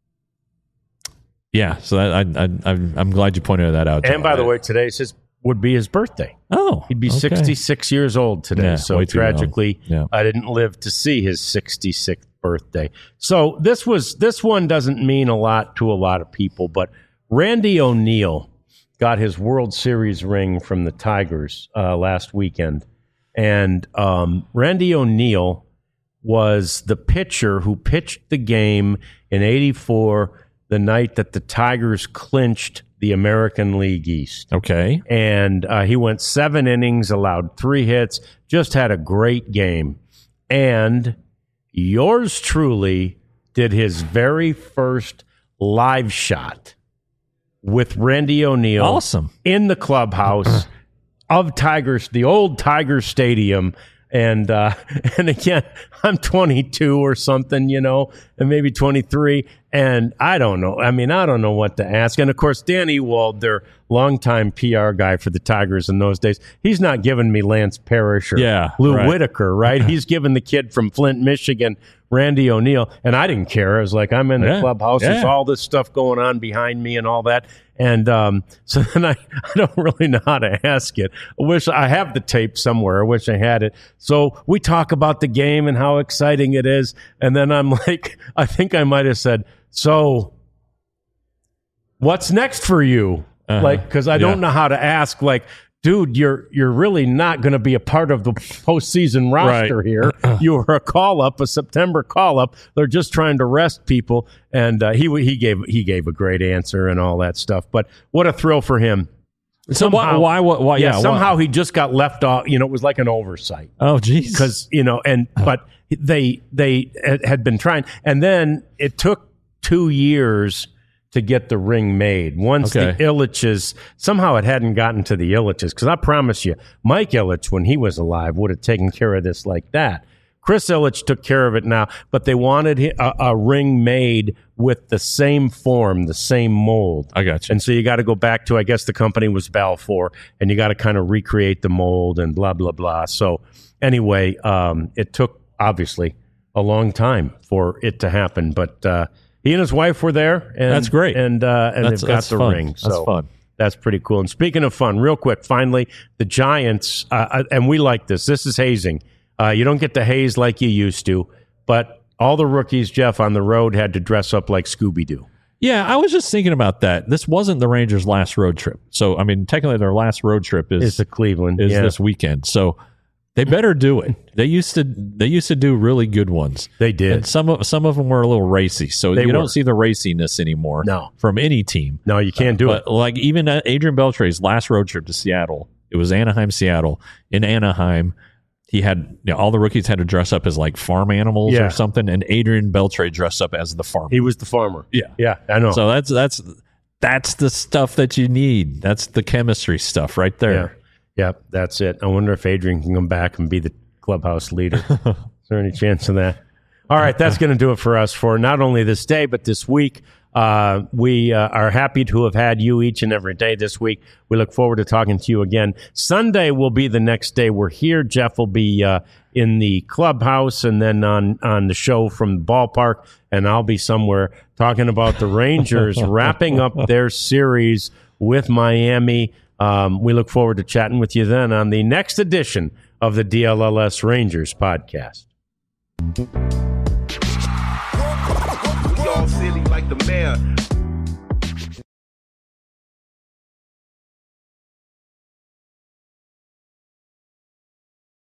yeah, so that, I, I, I'm glad you pointed that out. And by the way, today's his would be his birthday. Oh, he'd be okay. sixty-six years old today. Yeah, so way too tragically, young. Yeah. I didn't live to see his sixty-sixth birthday. So this was this one doesn't mean a lot to a lot of people, but Randy O'Neal got his World Series ring from the Tigers uh, last weekend, and um, Randy O'Neal was the pitcher who pitched the game in eighty-four. The night that the Tigers clinched the American League East. Okay. And uh, he went seven innings, allowed three hits, just had a great game. And yours truly did his very first live shot with Randy O'Neal. Awesome. In the clubhouse of Tigers, the old Tiger Stadium. And uh, and again, I'm twenty-two or something, you know, and maybe twenty-three. And I don't know. I mean, I don't know what to ask. And, of course, Dan Ewald, their longtime P R guy for the Tigers in those days, he's not giving me Lance Parrish or yeah, Lou right. Whitaker, right? He's giving the kid from Flint, Michigan, Randy O'Neal. And I didn't care. I was like, I'm in the yeah, clubhouse. yeah. There's all this stuff going on behind me and all that. And um, so then I, I don't really know how to ask it. I wish I have the tape somewhere. I wish I had it. So we talk about the game and how exciting it is. And then I'm like, I think I might have said, so what's next for you? Uh-huh. Like, because I yeah. don't know how to ask, like, dude, you're you're really not going to be a part of the postseason roster right. here. You were a call up, a September call up. They're just trying to rest people, and uh, he he gave he gave a great answer and all that stuff. But what a thrill for him! So somehow, why, why, why, yeah, yeah, somehow why? he just got left off. You know, it was like an oversight. Oh, geez. Because you know, and but they they had been trying, and then it took two years to get the ring made. Once okay. the Ilitches, somehow it hadn't gotten to the Ilitches, because I promise you, Mike Ilitch, when he was alive, would have taken care of this like that. Chris Ilitch took care of it now, but they wanted a, a ring made with the same form, the same mold. I got you. And so you got to go back to, I guess the company was Balfour, and you got to kind of recreate the mold and blah, blah, blah. So anyway, um, it took, obviously, a long time for it to happen, but uh, he and his wife were there. And, that's great. And, uh, and that's, they've got that's the fun. ring. So that's fun. That's pretty cool. And speaking of fun, real quick, finally, the Giants, uh, and we like this. This is hazing. Uh, you don't get to haze like you used to, but all the rookies, Jeff, on the road had to dress up like Scooby-Doo. Yeah, I was just thinking about that. This wasn't the Rangers' last road trip. So, I mean, technically their last road trip is, is to Cleveland. Is yeah. this weekend. So they better do it. They used to they used to do really good ones. They did. And some of some of them were a little racy. So They you were. don't see the raciness anymore No. from any team. No, you can't do But it. like even Adrian Beltre's last road trip to Seattle, it was Anaheim, Seattle. In Anaheim, he had you know, all the rookies had to dress up as like farm animals Yeah. or something, and Adrian Beltre dressed up as the farmer. He was the farmer. Yeah, Yeah, I know. So that's that's that's the stuff that you need. That's the chemistry stuff right yeah. there. Yeah, that's it. I wonder if Adrian can come back and be the clubhouse leader. Is there any chance of that? All right, that's going to do it for us for not only this day, but this week. Uh, we uh, are happy to have had you each and every day this week. We look forward to talking to you again. Sunday will be the next day we're here. Jeff will be uh, in the clubhouse and then on, on the show from the ballpark, and I'll be somewhere talking about the Rangers wrapping up their series with Miami. Um, we look forward to chatting with you then on the next edition of the D L L S Rangers podcast. We all silly like the mayor.